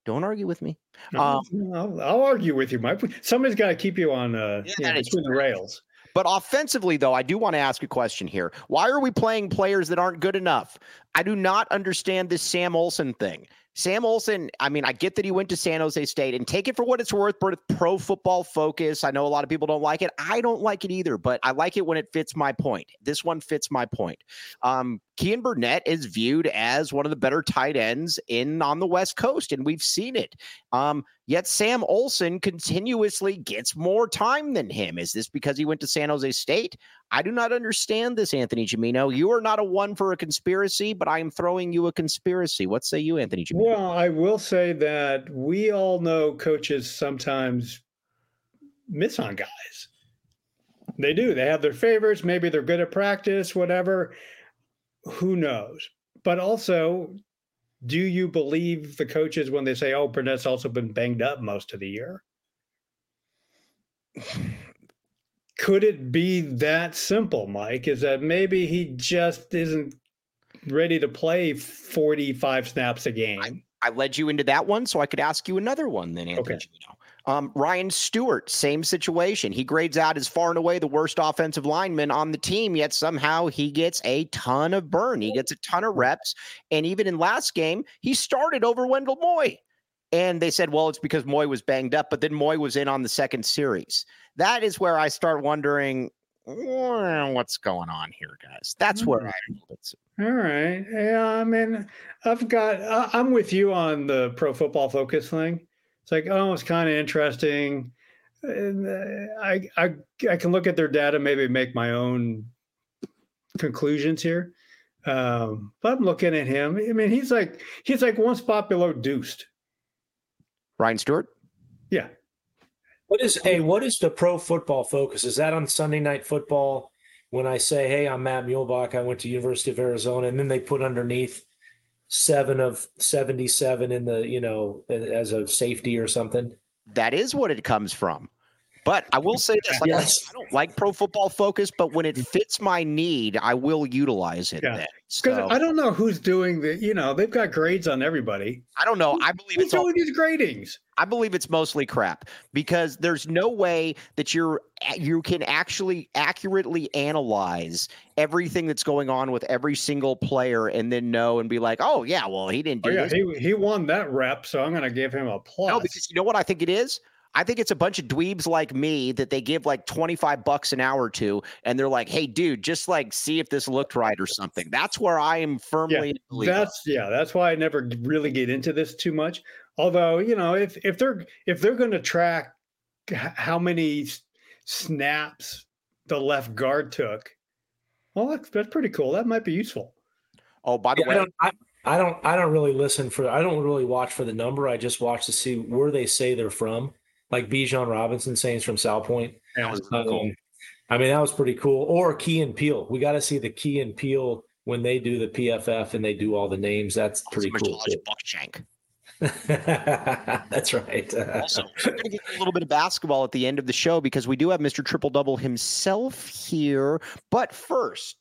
Don't argue with me. I'll argue with you, Mike. Somebody's got to keep you on between the rails. But offensively, though, I do want to ask a question here. Why are we playing players that aren't good enough? I do not understand this Sam Olsen thing. Sam Olsen, I mean, I get that he went to San Jose State, and take it for what it's worth, but Pro Football Focus. I know a lot of people don't like it. I don't like it either, but I like it when it fits my point. This one fits my point. Kean Burnett is viewed as one of the better tight ends on the West Coast, and we've seen it. Yet Sam Olsen continuously gets more time than him. Is this because he went to San Jose State? I do not understand this, Anthony Gimino. You are not a one for a conspiracy, but I am throwing you a conspiracy. What say you, Anthony Gimino? Well, I will say that we all know coaches sometimes miss on guys. They do. They have their favorites. Maybe they're good at practice, whatever. Who knows? But also, do you believe the coaches when they say, oh, Burnett's also been banged up most of the year? Could it be that simple, Mike? Is that maybe he just isn't ready to play 45 snaps a game? I led you into that one, so I could ask you another one then, Anthony. Okay. Ryan Stewart, same situation. He grades out as far and away the worst offensive lineman on the team, yet somehow he gets a ton of burn. He gets a ton of reps, and even in last game, he started over Wendell Moy. And they said, well, it's because Moy was banged up, but then Moy was in on the second series. That is where I start wondering, what's going on here, guys? That's where I'm. All right. Yeah, I mean, I'm with you on the Pro Football Focus thing. It's like, oh, it's kind of interesting. I can look at their data, maybe make my own conclusions here. But I'm looking at him. I mean, he's like one spot below Deuced. Ryan Stewart? Yeah. What is the Pro Football Focus? Is that on Sunday Night Football when I say, hey, I'm Matt Muehlbach, I went to University of Arizona, and then they put underneath 7 of 77 in the, as a safety or something? That is what it comes from. But I will say this, yes. I don't like Pro Football Focus, but when it fits my need, I will utilize it. Yeah. Because I don't know who's doing they've got grades on everybody. I don't know. I believe who's doing these gradings. I believe it's mostly crap because there's no way that you can actually accurately analyze everything that's going on with every single player and then know and be like, oh yeah, well he didn't do this. He won that rep, so I'm going to give him a plus. No, because you know what I think it is? I think it's a bunch of dweebs like me that they give like $25 an hour to, and they're like, hey, dude, just like see if this looked right or something. That's where I am firmly. That's why I never really get into this too much. Although, if they're going to track how many snaps the left guard took, well, that's pretty cool. That might be useful. Oh, by the way, I don't really I don't really watch for the number. I just watch to see where they say they're from. Like Bijan Robinson saying he's from South Point. That was cool. I mean, that was pretty cool. Or Key and Peele. We got to see the Key and Peele when they do the PFF and they do all the names. That's pretty cool. Buckshank. That's right. Also, we're going to get a little bit of basketball at the end of the show because we do have Mr. Triple Double himself here. But first,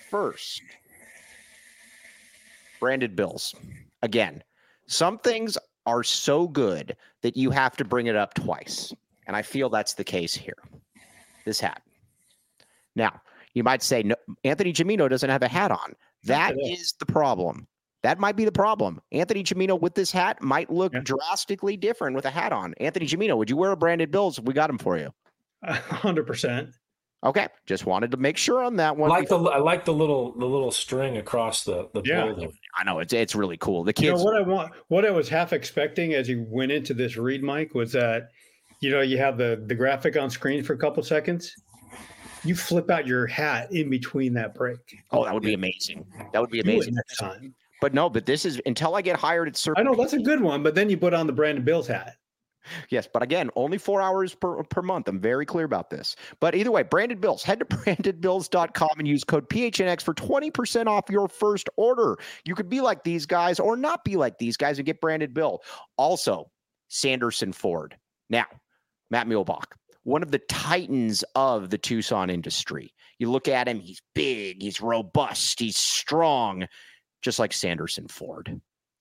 branded bills. Again, some things are so good that you have to bring it up twice. And I feel that's the case here. This hat. Now, you might say, no, Anthony Gimino doesn't have a hat on. That is the problem. That might be the problem. Anthony Gimino with this hat might look drastically different with a hat on. Anthony Gimino, would you wear a branded bills if we got him for you? 100%. Okay, just wanted to make sure on that one. I like the little string across the bill there. I know it's really cool. The kids. What I was half expecting as you went into this read, Mike, was that you have the graphic on screen for a couple seconds. You flip out your hat in between that break. Oh, that would be amazing. That would be amazing next time. But this is until I get hired at certain. I know that's a good one, but then you put on the Brandon Bills hat. Yes, but again, only 4 hours per month. I'm very clear about this. But either way, Branded Bills. Head to brandedbills.com and use code PHNX for 20% off your first order. You could be like these guys or not be like these guys and get Branded Bill. Also, Sanderson Ford. Now, Matt Muehlbach, one of the titans of the Tucson industry. You look at him, he's big, he's robust, he's strong, just like Sanderson Ford.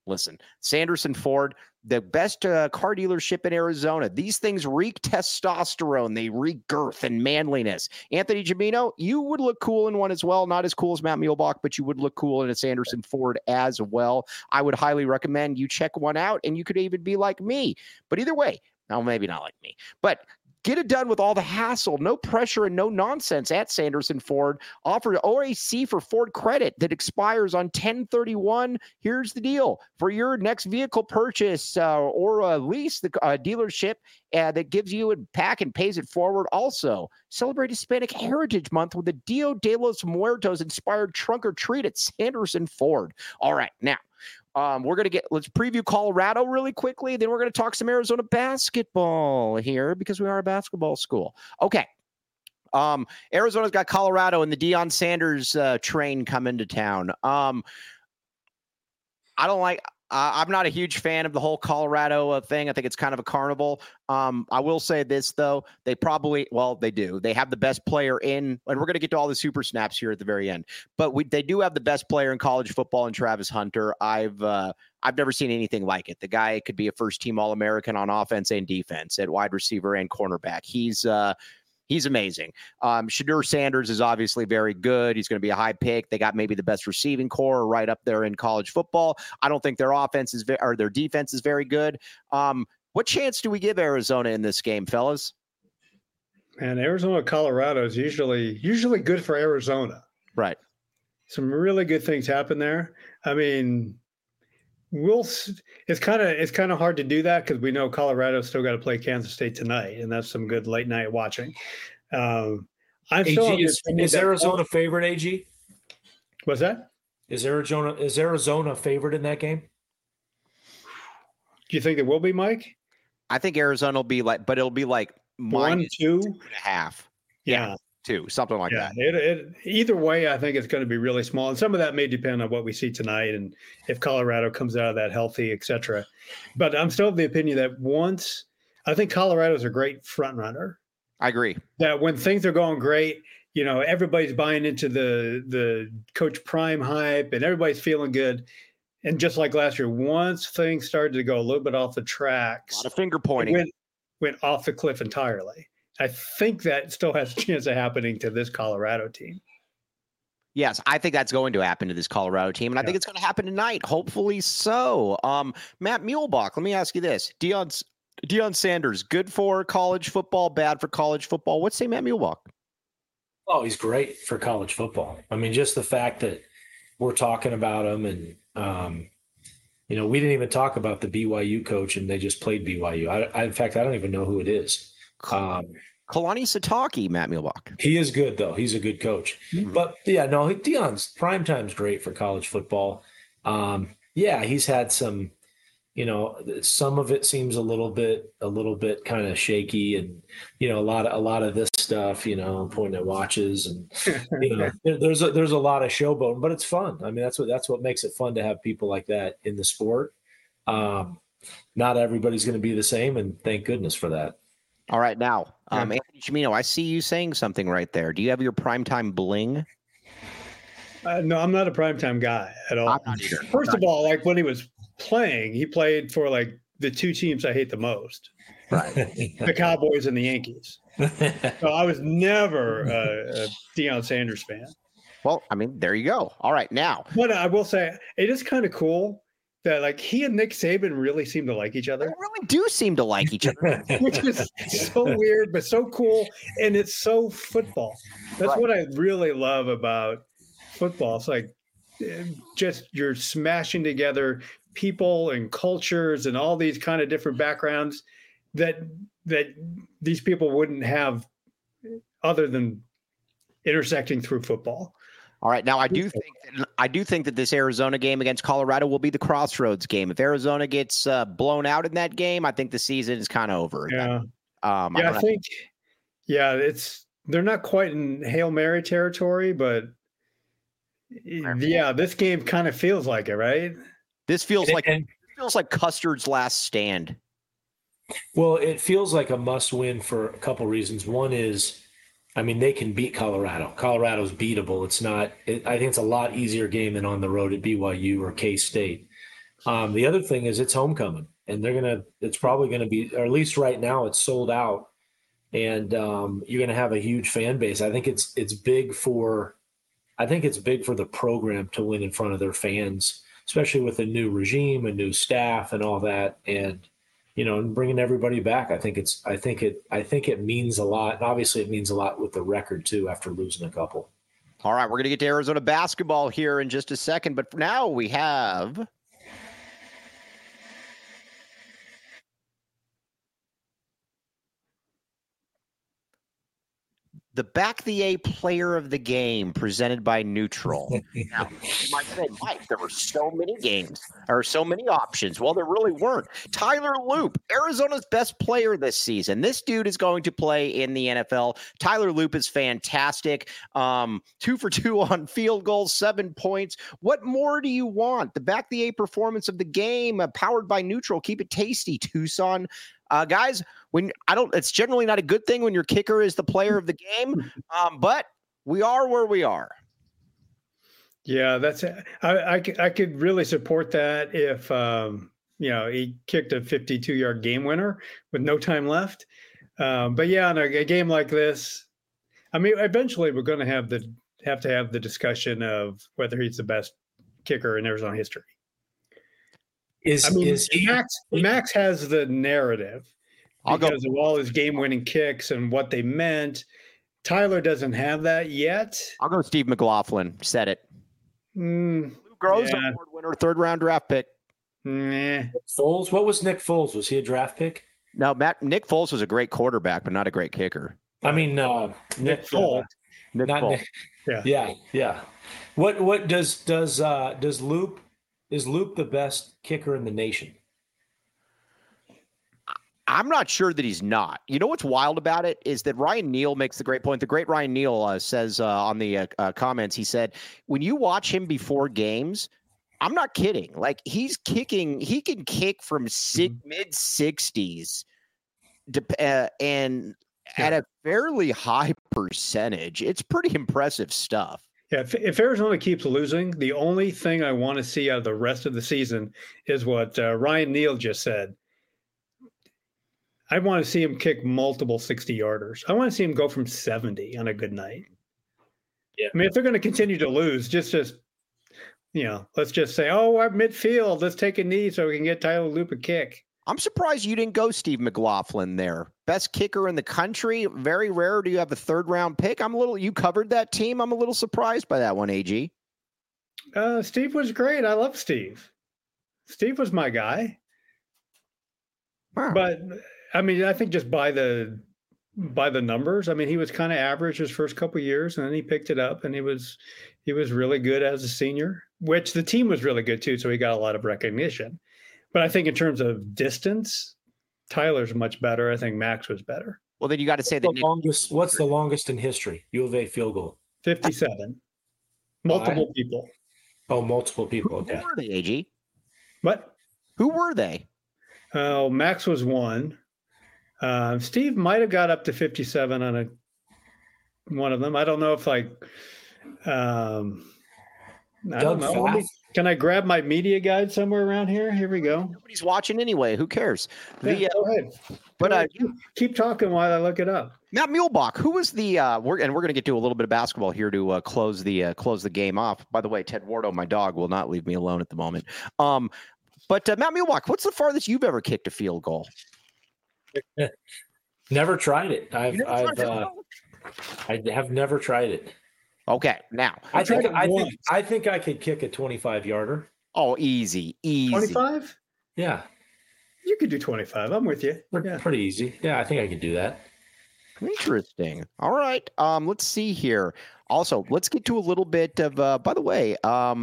Listen, Sanderson Ford, the best car dealership in Arizona. These things reek testosterone. They reek girth and manliness. Anthony Gimino, you would look cool in one as well. Not as cool as Matt Muehlbach, but you would look cool in a Sanderson Ford as well. I would highly recommend you check one out, and you could even be like me. But either way, no, maybe not like me, but get it done with all the hassle, no pressure, and no nonsense at Sanderson Ford. Offer OAC for Ford credit that expires on 10/31. Here's the deal. For your next vehicle purchase or lease, the dealership that gives you a pack and pays it forward. Also, celebrate Hispanic Heritage Month with the Dia de los Muertos inspired trunk or treat at Sanderson Ford. All right, now, let's preview Colorado really quickly. Then we're going to talk some Arizona basketball here because we are a basketball school. Okay. Arizona's got Colorado and the Deion Sanders train coming to town. I'm not a huge fan of the whole Colorado thing. I think it's kind of a carnival. I will say this, though. They do. They have the best player in, and we're going to get to all the super snaps here at the very end. But they do have the best player in college football in Travis Hunter. I've never seen anything like it. The guy could be a first-team All-American on offense and defense at wide receiver and cornerback. He's amazing. Shedeur Sanders is obviously very good. He's going to be a high pick. They got maybe the best receiving core right up there in college football. I don't think their offense is or their defense is very good. What chance do we give Arizona in this game, fellas? And Arizona, Colorado is usually good for Arizona. Right. Some really good things happen there. I mean, it's kind of hard to do that because we know Colorado's still got to play Kansas State tonight, and that's some good late night watching. Is Arizona favorite, AG? What's that? Is Arizona favorite in that game? Do you think it will be, Mike? I think Arizona will be but it'll be like 1, 2.5. Yeah. 2, something like that. Either way, I think it's going to be really small. And some of that may depend on what we see tonight and if Colorado comes out of that healthy, et cetera. But I'm still of the opinion that I think Colorado's a great front runner. I agree. That when things are going great, everybody's buying into the Coach Prime hype and everybody's feeling good. And just like last year, once things started to go a little bit off the tracks, a lot of finger pointing, went off the cliff entirely. I think that still has a chance of happening to this Colorado team. Yes, I think that's going to happen to this Colorado team, and I think it's going to happen tonight. Hopefully so. Matt Muehlbach, let me ask you this. Deion Sanders, good for college football, bad for college football. What say Matt Muehlbach? Oh, he's great for college football. I mean, just the fact that we're talking about him and, we didn't even talk about the BYU coach, and they just played BYU. In fact, I don't even know who it is. Kalani Sitake, Matt Muehlbach. He is good, though. He's a good coach. Mm-hmm. But, Deion's primetime's great for college football. He's had some, some of it seems a little bit kind of shaky and, a lot of this stuff, pointing at watches and, there's a lot of showboating, but it's fun. I mean, that's what makes it fun to have people like that in the sport. Not everybody's going to be the same, and thank goodness for that. All right, now, Anthony Gimino, I see you saying something right there. Do you have your primetime bling? No, I'm not a primetime guy at all. I'm not either. First of all, like when he was playing, he played for like the two teams I hate the most, right? The Cowboys and the Yankees. So I was never a Deion Sanders fan. Well, I mean, there you go. All right, now. But I will say it is kind of cool that like he and Nick Saban really seem to like each other. They really do seem to like each other. Which is so weird, but so cool. And it's so football. That's what I really love about football. It's like just you're smashing together people and cultures and all these kind of different backgrounds that these people wouldn't have other than intersecting through football. All right. Now, I do think that this Arizona game against Colorado will be the crossroads game. If Arizona gets blown out in that game, I think the season is kind of over. Yeah. I think they're not quite in Hail Mary territory, but this game kind of feels like it, right? This feels like Custard's last stand. Well, it feels like a must win for a couple reasons. One is, I mean, they can beat Colorado. Colorado's beatable. I think it's a lot easier game than on the road at BYU or K-State. The other thing is it's homecoming, and it's probably going to be, or at least right now, it's sold out, and you're going to have a huge fan base. I think it's big for the program to win in front of their fans, especially with a new regime, a new staff, and all that, and and bringing everybody back. I think it means a lot, and obviously it means a lot with the record too after losing a couple. All right, we're going to get to Arizona basketball here in just a second, but for now we have the Back the A player of the game presented by Neutral. Now, you might say, Mike, there were so many games or so many options. Well, there really weren't. Tyler Loop, Arizona's best player this season. This dude is going to play in the NFL. Tyler Loop is fantastic. 2 for 2 on field goals, 7 points. What more do you want? The Back the A performance of the game, powered by Neutral. Keep it tasty, Tucson. Guys, it's generally not a good thing when your kicker is the player of the game, but we are where we are. Yeah, I could really support that if he kicked a 52-yard game winner with no time left. But yeah, in a game like this, I mean, eventually we're going to have to have the discussion of whether he's the best kicker in Arizona history. Max has the narrative because of all his game-winning kicks and what they meant. Tyler doesn't have that yet. I'll go Steve McLaughlin. Said it. Groves, award winner, 3rd-round draft pick. Nah. Foles. What was Nick Foles? Was he a draft pick? No, Nick Foles was a great quarterback, but not a great kicker. I mean, Nick Foles. Nick Foles. Nick. Yeah. What does Loop? Is Loop the best kicker in the nation? I'm not sure that he's not. You know what's wild about it is that Ryan Neal makes the great point. The great Ryan Neal says on the comments, he said, when you watch him before games, I'm not kidding. Like he can kick from mid 60s and at a fairly high percentage. It's pretty impressive stuff. Yeah, if Arizona keeps losing, the only thing I want to see out of the rest of the season is what Ryan Neal just said. I want to see him kick multiple 60-yarders. I want to see him go from 70 on a good night. Yeah. I mean, if they're going to continue to lose, just let's just say, we're at midfield. Let's take a knee so we can get Tyler Loop a kick. I'm surprised you didn't go Steve McLaughlin there. Best kicker in the country. Very rare do you have a 3rd-round pick. You covered that team. I'm a little surprised by that one, AG. Steve was great. I love Steve. Steve was my guy. Wow. But I mean, I think just by the numbers, I mean, he was kind of average his first couple of years, and then he picked it up, and he was really good as a senior, which the team was really good too. So he got a lot of recognition. But I think in terms of distance, Tyler's much better. I think Max was better. Well, then you got to say what's the longest in history? U of A field goal. 57. Multiple people. Oh, multiple people. Okay. Who were they, AG? What? Who were they? Max was one. Steve might have got up to 57 on one of them. I don't know if I don't know. Can I grab my media guide somewhere around here? Here we go. Nobody's watching anyway. Who cares? Go ahead. But keep talking while I look it up. Matt Muehlbach, who was the we're going to get to a little bit of basketball here to close the game off. By the way, Ted Wardo, my dog, will not leave me alone at the moment. But Matt Muehlbach, what's the farthest you've ever kicked a field goal? Never tried it. I have never tried it. Okay, now I think I could kick a 25-yarder. Oh, easy. 25? Yeah. You could do 25. I'm with you. Pretty easy. Yeah, I think I could do that. Interesting. All right. Let's see here. Also, let's get to a little bit of by the way,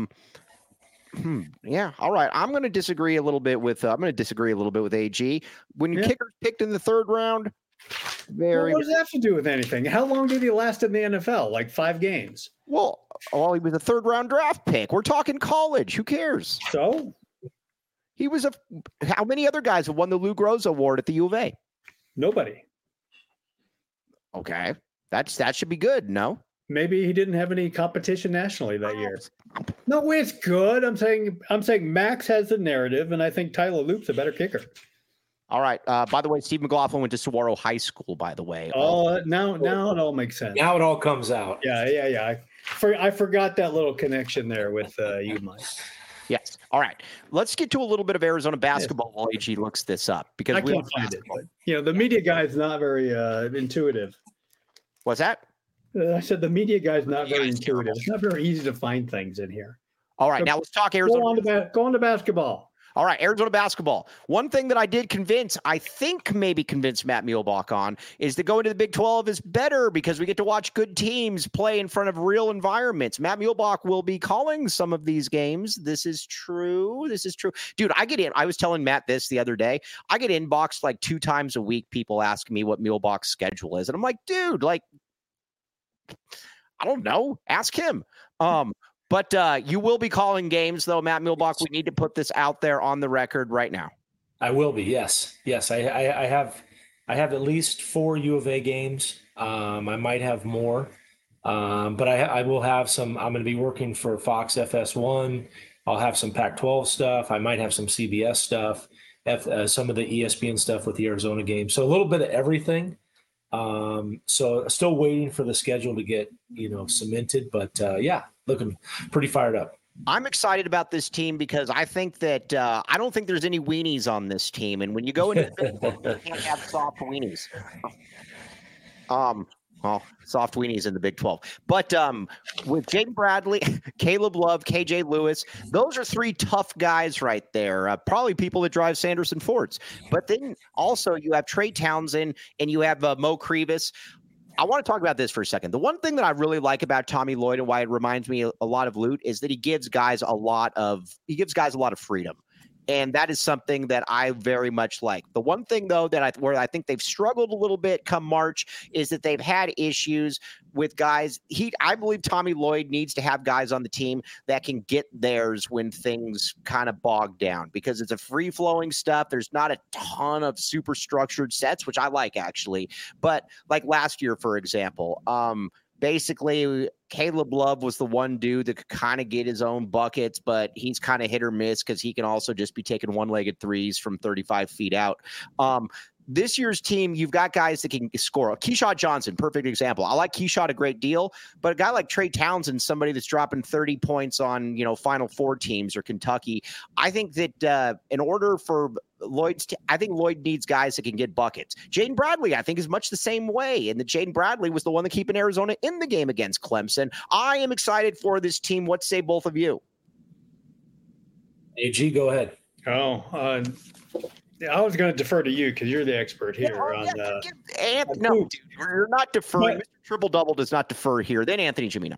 yeah. All right. I'm going to disagree a little bit with AG. When your kicker's picked in the 3rd round, what does that have to do with anything? How long did he last in the NFL? Like 5 games. Well, he was a 3rd-round draft pick. We're talking college. Who cares? So he was how many other guys have won the Lou Groza Award at the U of A? Nobody. Okay. That should be good, no? maybe he didn't have any competition nationally that year. No, it's good. I'm saying Max has the narrative, and I think Tyler Loop's a better kicker. All right. By the way, Steve McLaughlin went to Saguaro High School, by the way. Oh, now it all makes sense. Now it all comes out. Yeah. I forgot that little connection there with you, Mike. Yes. All right. Let's get to a little bit of Arizona basketball while AG looks this up, because I can't find it. But, the media guy is not very intuitive. What's that? I said the media guy is not very intuitive. It's not very easy to find things in here. All right. Now let's talk Arizona. Go on to basketball. All right, Arizona basketball. One thing that I did maybe convince Matt Muehlbach on, is that going to the Big 12 is better because we get to watch good teams play in front of real environments. Matt Muehlbach will be calling some of these games. This is true. Dude, I was telling Matt this the other day. I get inboxed like 2 times a week. People ask me what Muehlbach's schedule is. And I'm like, dude, I don't know. Ask him. But you will be calling games, though, Matt Muehlbach. We need to put this out there on the record right now. I will be. Yes. I have at least 4 U of A games. I might have more, but I will have some. I'm going to be working for Fox FS1. I'll have some Pac-12 stuff. I might have some CBS stuff, some of the ESPN stuff with the Arizona game. So a little bit of everything. So still waiting for the schedule to get cemented, but looking pretty fired up. I'm excited about this team because I think that I don't think there's any weenies on this team, and when you go into you can't have soft weenies. Soft weenies in the Big 12. But with Jaden Bradley, Caleb Love, KJ Lewis, those are 3 tough guys right there. Probably people that drive Sanderson Fords. But then also you have Trey Townsend and you have Mo Krivas. I want to talk about this for a second. The one thing that I really like about Tommy Lloyd and why it reminds me a lot of Lute is that he gives guys a lot of freedom. And that is something that I very much like. The one thing, though, where I think they've struggled a little bit come March is that they've had issues with guys. I believe Tommy Lloyd needs to have guys on the team that can get theirs when things kind of bog down, because it's a free-flowing stuff. There's not a ton of super structured sets, which I like, actually. But like last year, for example, basically, Caleb Love was the one dude that could kind of get his own buckets, but he's kind of hit or miss because he can also just be taking one-legged threes from 35 feet out. This year's team, you've got guys that can score. Keyshawn Johnson, perfect example. I like Keyshawn a great deal, but a guy like Trey Townsend, somebody that's dropping 30 points on, Final Four teams or Kentucky. I think that in order for I think Lloyd needs guys that can get buckets. Jaden Bradley, I think, is much the same way. And that Jaden Bradley was the one that keeping Arizona in the game against Clemson. I am excited for this team. What say both of you? AG, go ahead. I was going to defer to you because you're the expert here. No, dude, you're not deferring. Mr. Triple Double does not defer here. Then Anthony Gimino.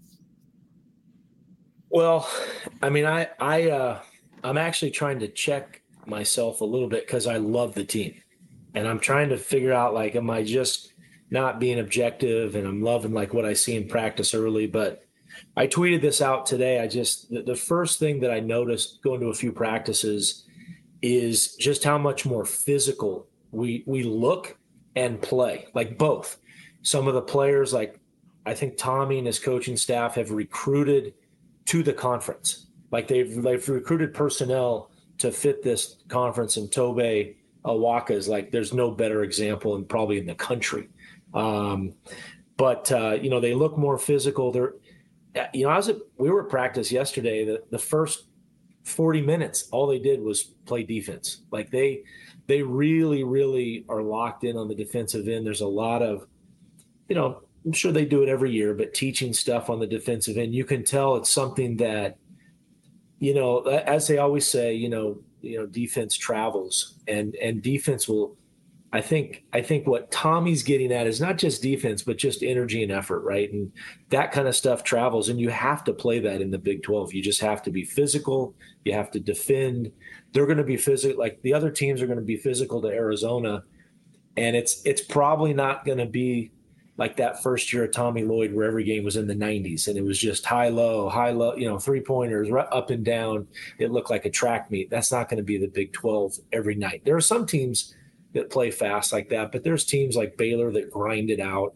Well, I mean, I'm actually trying to check myself a little bit because I love the team, and I'm trying to figure out, am I just not being objective? And I'm loving what I see in practice early. But I tweeted this out today. The first thing that I noticed going to a few practices is just how much more physical we look and play, both. Some of the players, I think Tommy and his coaching staff have recruited to the conference. They've recruited personnel to fit this conference, and Tobe Awaka is there's no better example and probably in the country. But they look more physical. We were at practice yesterday. The first 40 minutes, all they did was play defense. They really, really are locked in on the defensive end. There's a lot of, I'm sure they do it every year, but teaching stuff on the defensive end, you can tell it's something that, as they always say, defense travels, and defense will. I think what Tommy's getting at is not just defense, but just energy and effort, right? And that kind of stuff travels, and you have to play that in the Big 12. You just have to be physical. You have to defend. They're going to be physical. The other teams are going to be physical to Arizona, and it's probably not going to be like that first year of Tommy Lloyd where every game was in the 90s and it was just high, low, 3-pointers up and down. It looked like a track meet. That's not going to be the Big 12 every night. There are some teams that play fast like that, but there's teams like Baylor that grind it out.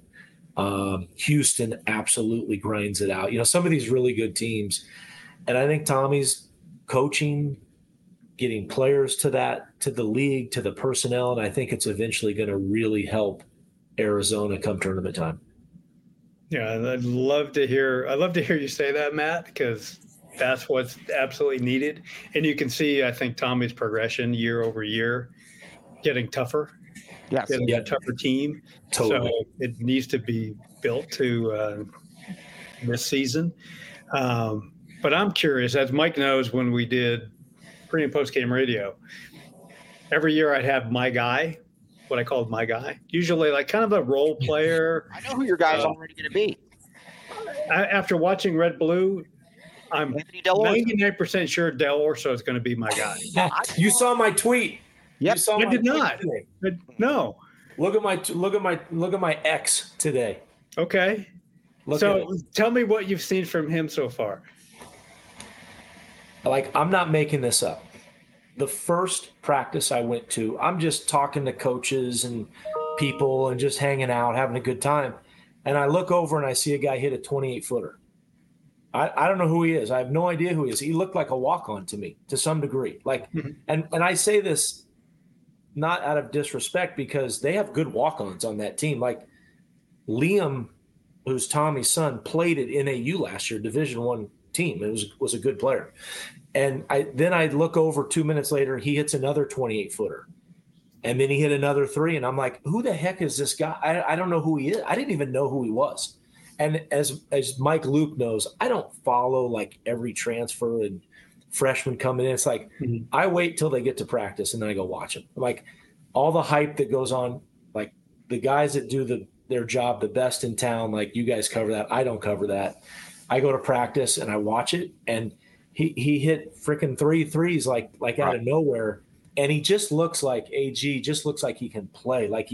Houston absolutely grinds it out. Some of these really good teams. And I think Tommy's coaching, getting players to the league, to the personnel, and I think it's eventually going to really help Arizona come tournament time. Yeah, I'd love to hear you say that, Matt, because that's what's absolutely needed. And you can see, I think, Tommy's progression year over year, getting tougher. Yes. Getting a tougher team. Totally. So it needs to be built to this season. But I'm curious, as Mike knows, when we did pre and post game radio, every year I'd have my guy, what I called my guy, usually like kind of a role player. I know who your guy's already going to be. After watching Red Blue, I'm Anthony Del Orso. 99% sure Del Orso is going to be my guy. You saw my tweet. Yep. I did not. No. Look at my ex today. Okay. So tell me what you've seen from him so far. Like, I'm not making this up. The first practice I went to, I'm just talking to coaches and people and just hanging out, having a good time. And I look over and I see a guy hit a 28-footer. I don't know who he is. I have no idea who he is. He looked like a walk-on to me to some degree. Like, and I say this not out of disrespect because they have good walk-ons on that team. Like Liam, who's Tommy's son, played at NAU last year, Division I team. It was a good player. And I look over 2 minutes later, he hits another 28-footer. And then he hit another three. And I'm like, who the heck is this guy? I don't know who he is. I didn't even know who he was. And as Mike Luke knows, I don't follow like every transfer and freshman coming in. It's like I wait till they get to practice and then I go watch them. Like all the hype that goes on, like the guys that do their job the best in town, like you guys cover that. I don't cover that. I go to practice and I watch it, and he hit freaking 3 threes like out of nowhere, and he just looks like AG. Just looks like he can play. Like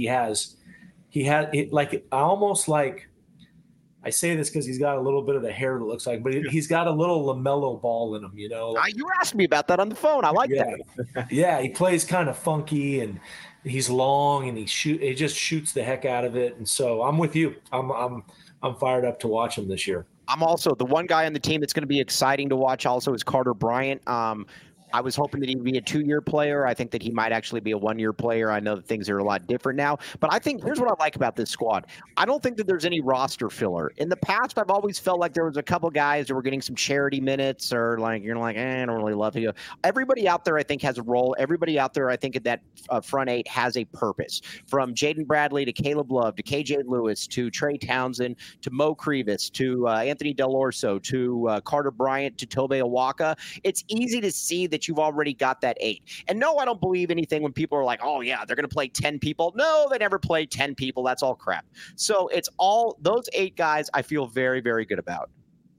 I say this because he's got a little bit of the hair that looks like, but he's got a little LaMelo ball in him, you know. You asked me about that on the phone. I like that. Yeah, he plays kind of funky, and he's long, and he just shoots the heck out of it. And so I'm with you. I'm fired up to watch him this year. I'm also the one guy on the team that's going to be exciting to watch. Also, is Carter Bryant. I was hoping that he'd be a 2-year player. I think that he might actually be a 1-year player. I know that things are a lot different now, but I think here's what I like about this squad. I don't think that there's any roster filler. In the past, I've always felt like there was a couple guys that were getting some charity minutes, or like you're like, I don't really love you. Everybody out there, I think, has a role. Everybody out there, I think, at that front eight has a purpose. From Jaden Bradley to Caleb Love to KJ Lewis to Trey Townsend to Mo Krivas to Anthony Del Orso to Carter Bryant to Tobe Awaka. It's easy to see that you've already got that 8. And no, I don't believe anything when people are like, oh yeah, they're going to play 10 people. No, they never play 10 people. That's all crap. So it's all those 8 guys I feel very, very good about.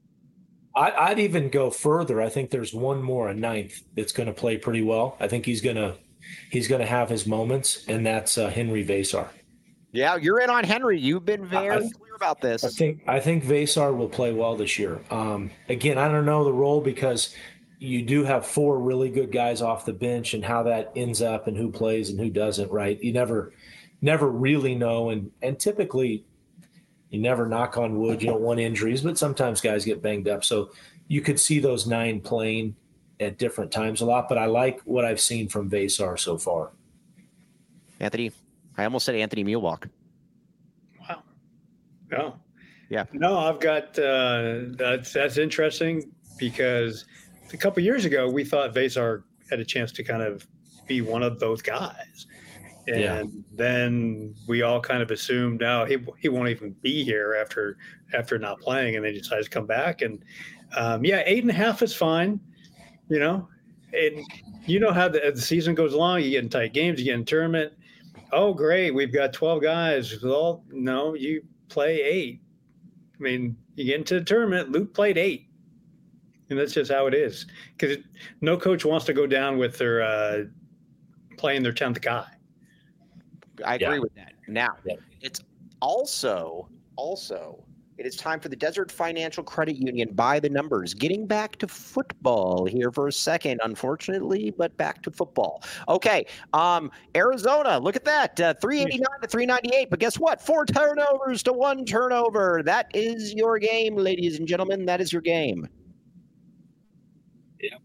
I'd even go further. I think there's one more, a 9th, that's going to play pretty well. I think he's going to have his moments, and that's Henry Vesar. Yeah, you're in on Henry. You've been very clear about this. I think Vesar will play well this year. Again, I don't know the role because you do have 4 really good guys off the bench, and how that ends up and who plays and who doesn't, right? You never really know. And typically you never, knock on wood, you don't want injuries, but sometimes guys get banged up. So you could see those 9 playing at different times a lot, but I like what I've seen from Vesar so far. Anthony, I almost said Anthony Mulewalk. Wow. No. Yeah. No, I've got that's interesting because a couple of years ago, we thought Vesar had a chance to kind of be one of those guys. And then we all kind of assumed, no, he won't even be here after not playing. And then he decides to come back. And 8.5 is fine, you know. And you know how the season goes along, you get in tight games, you get in tournament. Oh, great, we've got 12 guys. Well, no, you play 8. I mean, you get into the tournament, Luke played 8. And that's just how it is, because no coach wants to go down with their playing their 10th guy. I agree with that. Now, it's also It is time for the Desert Financial Credit Union by the numbers. Getting back to football here for a second, unfortunately, but back to football. Okay, Arizona, look at that, 389 to 398. But guess what? 4 turnovers to 1 turnover. That is your game, ladies and gentlemen. That is your game. Yeah.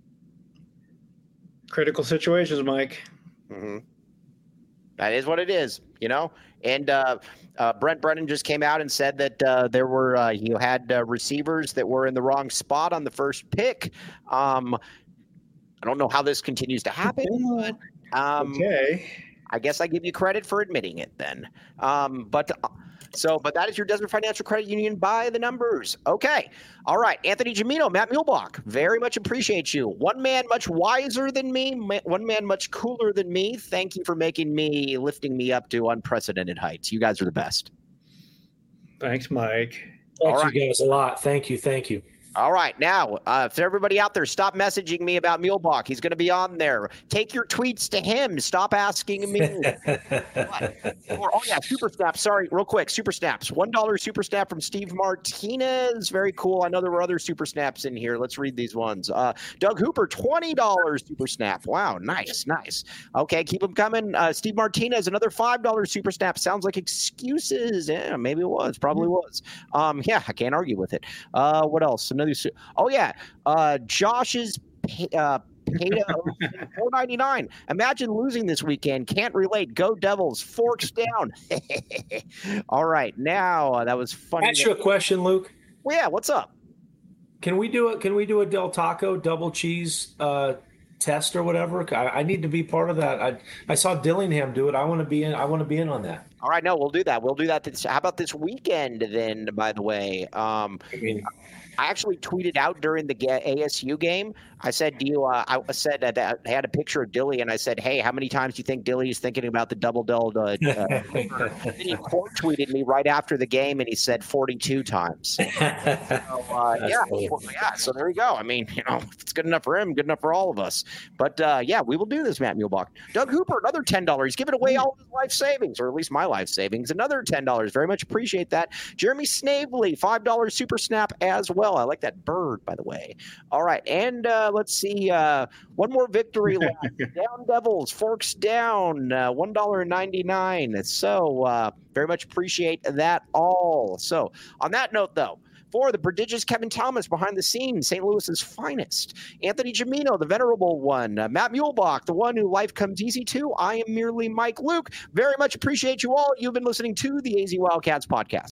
Critical situations, Mike. Mm-hmm. That is what it is, you know. And Brent Brennan just came out and said that there were you had receivers that were in the wrong spot on the first pick. I don't know how this continues to happen, but okay. I guess I give you credit for admitting it then. But that is your Desert Financial Credit Union by the numbers. Okay. All right. Anthony Gimino, Matt Muehlbach, very much appreciate you. One man much wiser than me, one man much cooler than me. Thank you for lifting me up to unprecedented heights. You guys are the best. Thanks, Mike. Thanks, you guys a lot. Thank you. All right. Now, for everybody out there, stop messaging me about Muehlbach. He's going to be on there. Take your tweets to him. Stop asking me. Super Snaps. Sorry, real quick. Super Snaps. $1 Super Snap from Steve Martinez. Very cool. I know there were other Super Snaps in here. Let's read these ones. Doug Hooper, $20 Super Snap. Wow, nice. Okay, keep them coming. Steve Martinez, another $5 Super Snap. Sounds like excuses. Yeah, maybe it was. Probably was. Yeah, I can't argue with it. What else? Josh's Peta $4.99. Imagine losing this weekend. Can't relate. Go Devils. Forks down. All right. Now that was funny. Ask you a question, Luke. Well, yeah. What's up? Can we do a Del Taco double cheese test or whatever? I need to be part of that. I saw Dillingham do it. I want to be in on that. All right. No, we'll do that. How about this weekend then? By the way, I actually tweeted out during the ASU game. I said, I said that I had a picture of Dilly, and I said, hey, how many times do you think Dilly is thinking about the double Del? Then he quote tweeted me right after the game, and he said 42 times. So there you go. I mean, if it's good enough for him, good enough for all of us. But we will do this, Matt Muehlbach. Doug Hooper, another $10. He's giving away all of his life savings, or at least my life savings. Another $10. Very much appreciate that. Jeremy Snavely, $5 Super Snap as well. I like that bird, by the way. All right, and let's see. One more victory left. Down Devils, Forks down, $1.99. So very much appreciate that all. So on that note, though, for the prodigious Kevin Thomas behind the scenes, St. Louis's finest, Anthony Gimino, the venerable one, Matt Muehlbach, the one who life comes easy to, I am merely Mike Luke. Very much appreciate you all. You've been listening to the AZ Wildcats podcast.